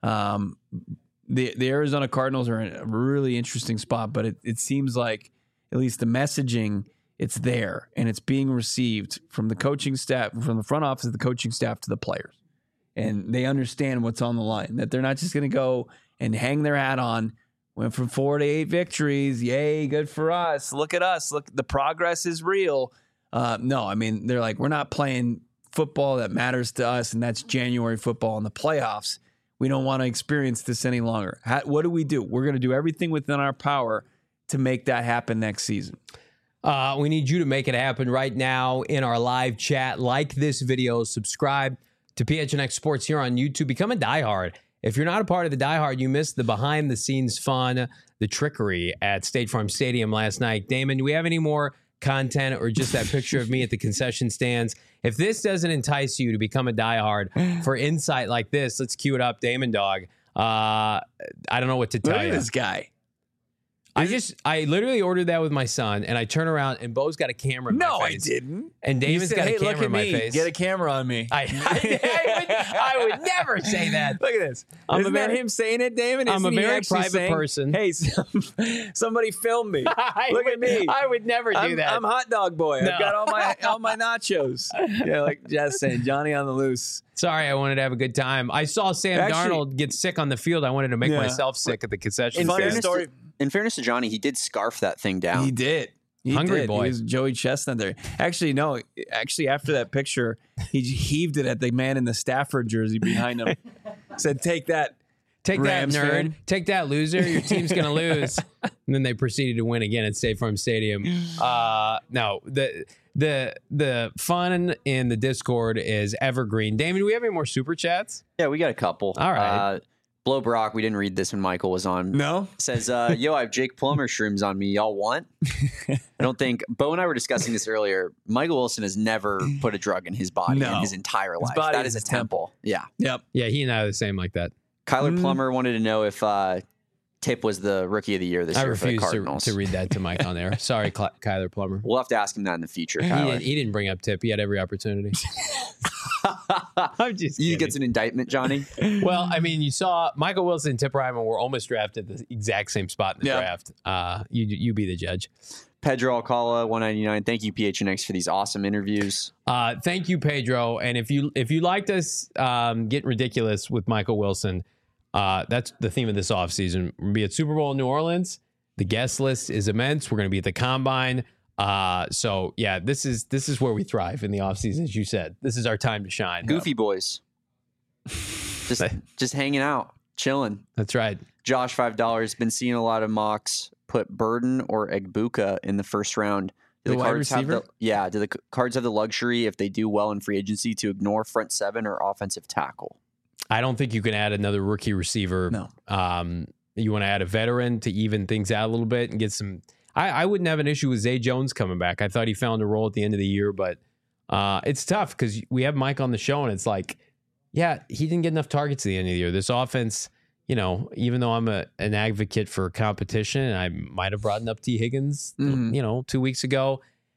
The Arizona Cardinals are in a really interesting spot, but it seems like at least the messaging, it's there and it's being received from the coaching staff, from the front office of the coaching staff to the players. And they understand what's on the line, that they're not just going to go and hang their hat on. Went from 4 to 8 victories. Yay, good for us. Look at us. Look, the progress is real. No, I mean, they're like, we're not playing football that matters to us, and that's January football in the playoffs. We don't want to experience this any longer. What do? We're going to do everything within our power to make that happen next season. We need you to make it happen right now in our live chat. Like this video, subscribe to PHNX Sports here on YouTube. Become a diehard. If you're not a part of the diehard, you missed the behind-the-scenes fun, the trickery at State Farm Stadium last night. Damon, do we have any more content or just that picture of me at the concession stands? If this doesn't entice you to become a diehard for insight like this, let's cue it up, Damon Dog. I don't know what to tell you. Look at this guy. I literally ordered that with my son, and I turn around, and Bo's got a camera in my face. No, I didn't. And Damon's got a camera look at in my me. face. Get a camera on me. I would never say that. Look at this. Isn't that him saying it, Damon? I'm a Isn't he very actually private saying, person. Hey, somebody film me. Look at me. I would never do that. I'm hot dog boy. No. I've got all my nachos. Yeah, like Jess saying, Johnny on the loose. Sorry, I wanted to have a good time. I saw Sam Darnold get sick on the field. I wanted to make myself sick at the concession stand. In fairness to Johnny, he did scarf that thing down. He did. Hungry boy. He was Joey Chestnut there. Actually, no. Actually, after that picture, he heaved it at the man in the Stafford jersey behind him. Said, "Take that, Rams nerd. fan. Take that, loser. Your team's going to lose." And then they proceeded to win again at State Farm Stadium. No, the fun in the Discord is evergreen. Damon, do we have any more super chats? Yeah, we got a couple. All right. Blow Brock, we didn't read this when Michael was on. No? Says, yo, I have Jake Plummer shrooms on me. Y'all want? I don't think, Bo and I were discussing this earlier. Michael Wilson has never put a drug in his body in his entire life. Body That is a temple. Yeah. Yep. Yeah, he and I are the same like that. Kyler Plummer wanted to know if Tip was the rookie of the year this year for the Cardinals. to read that to Mike on there. Sorry, Kyler Plummer. We'll have to ask him that in the future, Kyler. He didn't bring up Tip. He had every opportunity. I'm just kidding. He gets an indictment, Johnny. Well, I mean, you saw Michael Wilson and Tip Ryman were almost drafted at the exact same spot in the draft. You be the judge. Pedro Alcala, 199. Thank you, PHNX, for these awesome interviews. Thank you, Pedro. And if you liked us getting ridiculous with Michael Wilson, that's the theme of this offseason. We're going to be at Super Bowl in New Orleans. The guest list is immense. We're going to be at the Combine. So yeah, this is where we thrive in the offseason, as you said. This is our time to shine. Goofy boys. Just hanging out, chilling. That's right. Josh, $5. Been seeing a lot of mocks put Burden or Egbuka in the first round. Do The wide Cards have receiver? do the Cards have the luxury, if they do well in free agency, to ignore front seven or offensive tackle? I don't think you can add another rookie receiver. No. You want to add a veteran to even things out a little bit and get some. I wouldn't have an issue with Zay Jones coming back. I thought he found a role at the end of the year, but it's tough because we have Mike on the show and it's like, yeah, he didn't get enough targets at the end of the year. This offense, even though I'm an advocate for competition, and I might have brought up T. Higgins, 2 weeks ago.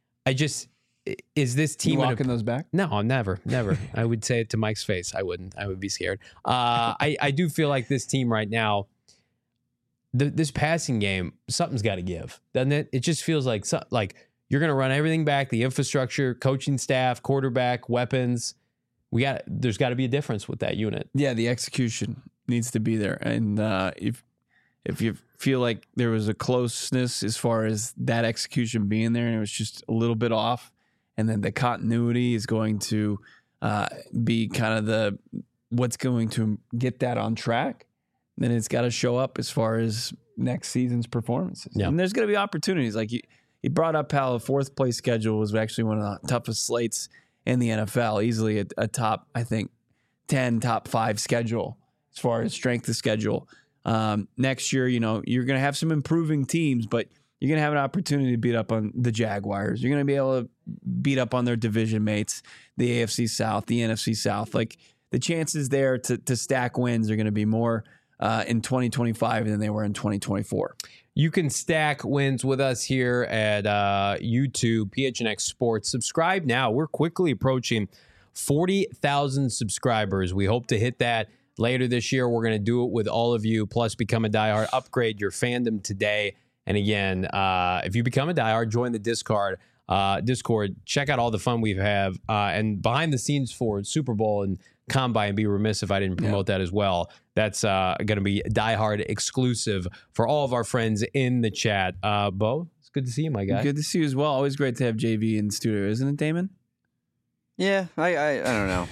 Is this team You walking those back? No, I'm never. I would say it to Mike's face. I wouldn't. I would be scared. I do feel like this team right now, this passing game, something's got to give, doesn't it? It just feels like you're going to run everything back, the infrastructure, coaching staff, quarterback, weapons. There's got to be a difference with that unit. Yeah, the execution needs to be there. And if you feel like there was a closeness as far as that execution being there and it was just a little bit off, and then the continuity is going to be kind of what's going to get that on track, then it's got to show up as far as next season's performances. Yeah. And there's going to be opportunities. Like you brought up how a fourth place schedule was actually one of the toughest slates in the NFL, easily a top, I think, 10, top 5 schedule as far as strength of schedule. Next year, you're going to have some improving teams, but you're going to have an opportunity to beat up on the Jaguars. You're going to be able to beat up on their division mates, the AFC South, the NFC South. Like the chances there to stack wins are going to be more in 2025 than they were in 2024. You can stack wins with us here at YouTube, PHNX Sports. Subscribe now. We're quickly approaching 40,000 subscribers. We hope to hit that later this year. We're going to do it with all of you, plus become a diehard. Upgrade your fandom today. And again, if you become a diehard, join the Discord. Check out all the fun we have. And behind the scenes for Super Bowl and Combine, be remiss if I didn't promote that as well. That's going to be diehard exclusive for all of our friends in the chat. Bo, it's good to see you, my guy. Good to see you as well. Always great to have JV in the studio, isn't it, Damon? Yeah, I don't know.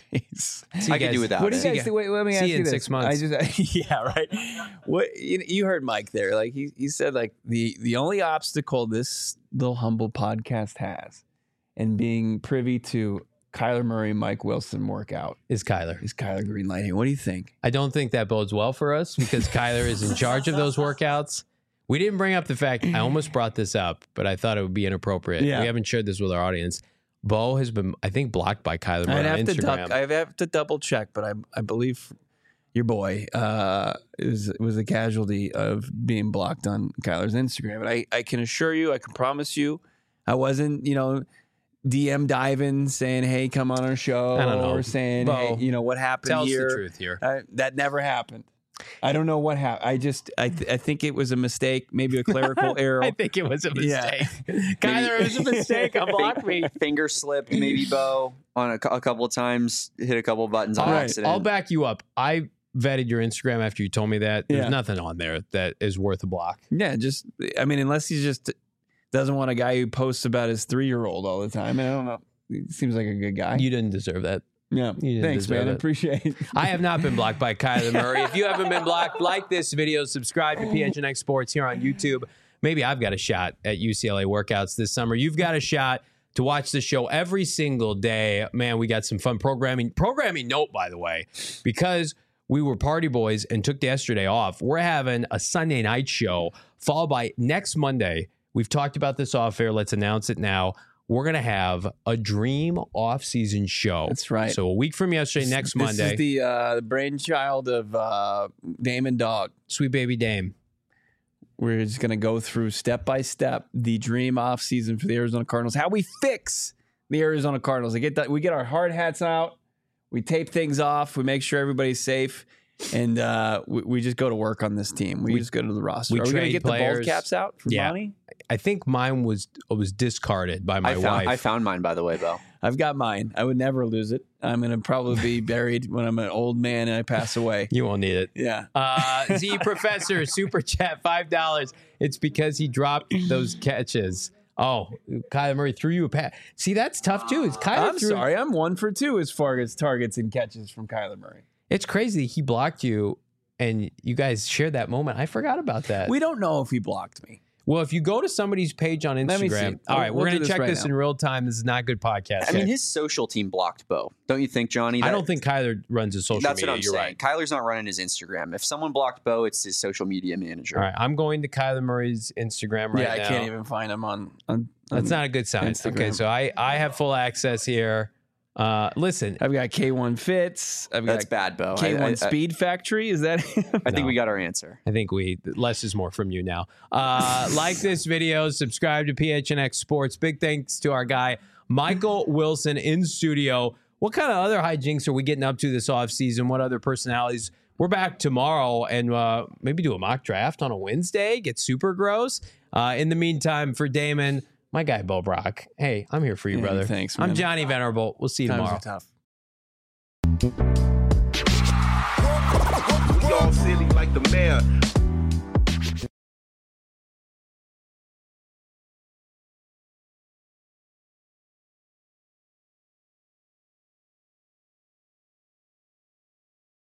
I could do without What do it. you guys think? Wait, let me ask See you you in this. 6 months. Yeah, right. What you heard Mike there? Like he said, like the only obstacle this little humble podcast has, and being privy to Kyler Murray, Mike Wilson workout Is Kyler. is Kyler Greenlighting. What do you think? I don't think that bodes well for us because Kyler is in charge of those workouts. We didn't bring up the fact, I almost brought this up, but I thought it would be inappropriate. Yeah. We haven't shared this with our audience. Bo has been, I think, blocked by Kyler Murray on Instagram. I have to double check, but I believe your boy was a casualty of being blocked on Kyler's Instagram. But I can assure you, I can promise you, I wasn't, DM diving saying, "Hey, come on our show," I don't know. or saying, Bo, "Hey, what happened Tell us here?" the truth here. That never happened. I don't know what happened. I think it was a mistake, maybe a clerical error. I think it was a mistake. Yeah. Kyler, it was a mistake. Unblock me. Finger slipped, maybe Bo on a couple of times, hit a couple of buttons on accident. I'll back you up. I vetted your Instagram after you told me that. There's Yeah. nothing on there that is worth a block. Yeah, unless he just doesn't want a guy who posts about his 3-year-old all the time. I don't know. He seems like a good guy. You didn't deserve that. Yeah. You didn't Thanks, deserve man. I it. appreciate it. I have not been blocked by Kyler Murray. If you haven't been blocked, like this video, subscribe to PHNX Sports here on YouTube. Maybe I've got a shot at UCLA workouts this summer. You've got a shot to watch the show every single day. Man, we got some fun programming. Programming note, by the way, because we were party boys and took yesterday off, we're having a Sunday night show followed by next Monday. We've talked about this off air. Let's announce it now. We're going to have a Dream off-season show. That's right. So a week from yesterday, next Monday. This is the brainchild of Damon Dog. Sweet Baby Dame. We're just going to go through step by step the dream off season for the Arizona Cardinals. How we fix the Arizona Cardinals. We get our hard hats out. We tape things off. We make sure everybody's safe. And we just go to work on this team. We just go to the roster. Are we going to get the bald caps out for Bonnie? I think mine was discarded by my wife. I found mine, by the way, Bo. I've got mine. I would never lose it. I'm going to probably be buried when I'm an old man and I pass away. You won't need it. Yeah. Z Professor, Super Chat, $5. It's because he dropped those catches. Oh, Kyler Murray threw you a pass. See, that's tough, too. I'm sorry. I'm 1 for 2 as far as targets and catches from Kyler Murray. It's crazy. He blocked you and you guys shared that moment. I forgot about that. We don't know if he blocked me. Well, if you go to somebody's page on Let me see. Instagram, all right, We'll we're going do to this check right this now. in real time. This is not good podcast. I mean, his social team blocked Bo. Don't you think, Johnny? I don't think Kyler runs his social That's media. what I'm You're saying. right. Kyler's not running his Instagram. If someone blocked Bo, it's his social media manager. All right, I'm going to Kyler Murray's Instagram right now. I can't even find him on That's not a good sign. Instagram. Okay, so I have full access here. Listen, I've got K1 Fits. I've That's got bad, Bo. K1 Speed Factory. Is that him? I think No. we got our answer. I think less is more from you now. Like this video, subscribe to PHNX Sports. Big thanks to our guy, Michael Wilson in studio. What kind of other hijinks are we getting up to this offseason? What other personalities? We're back tomorrow and maybe do a mock draft on a Wednesday, get super gross. In the meantime, for Damon, my guy, Bo Brock. Hey, I'm here for you, Hey, brother. thanks, I'm man. Johnny Venerable. We'll see you Times tomorrow. are tough. We all silly like the mayor.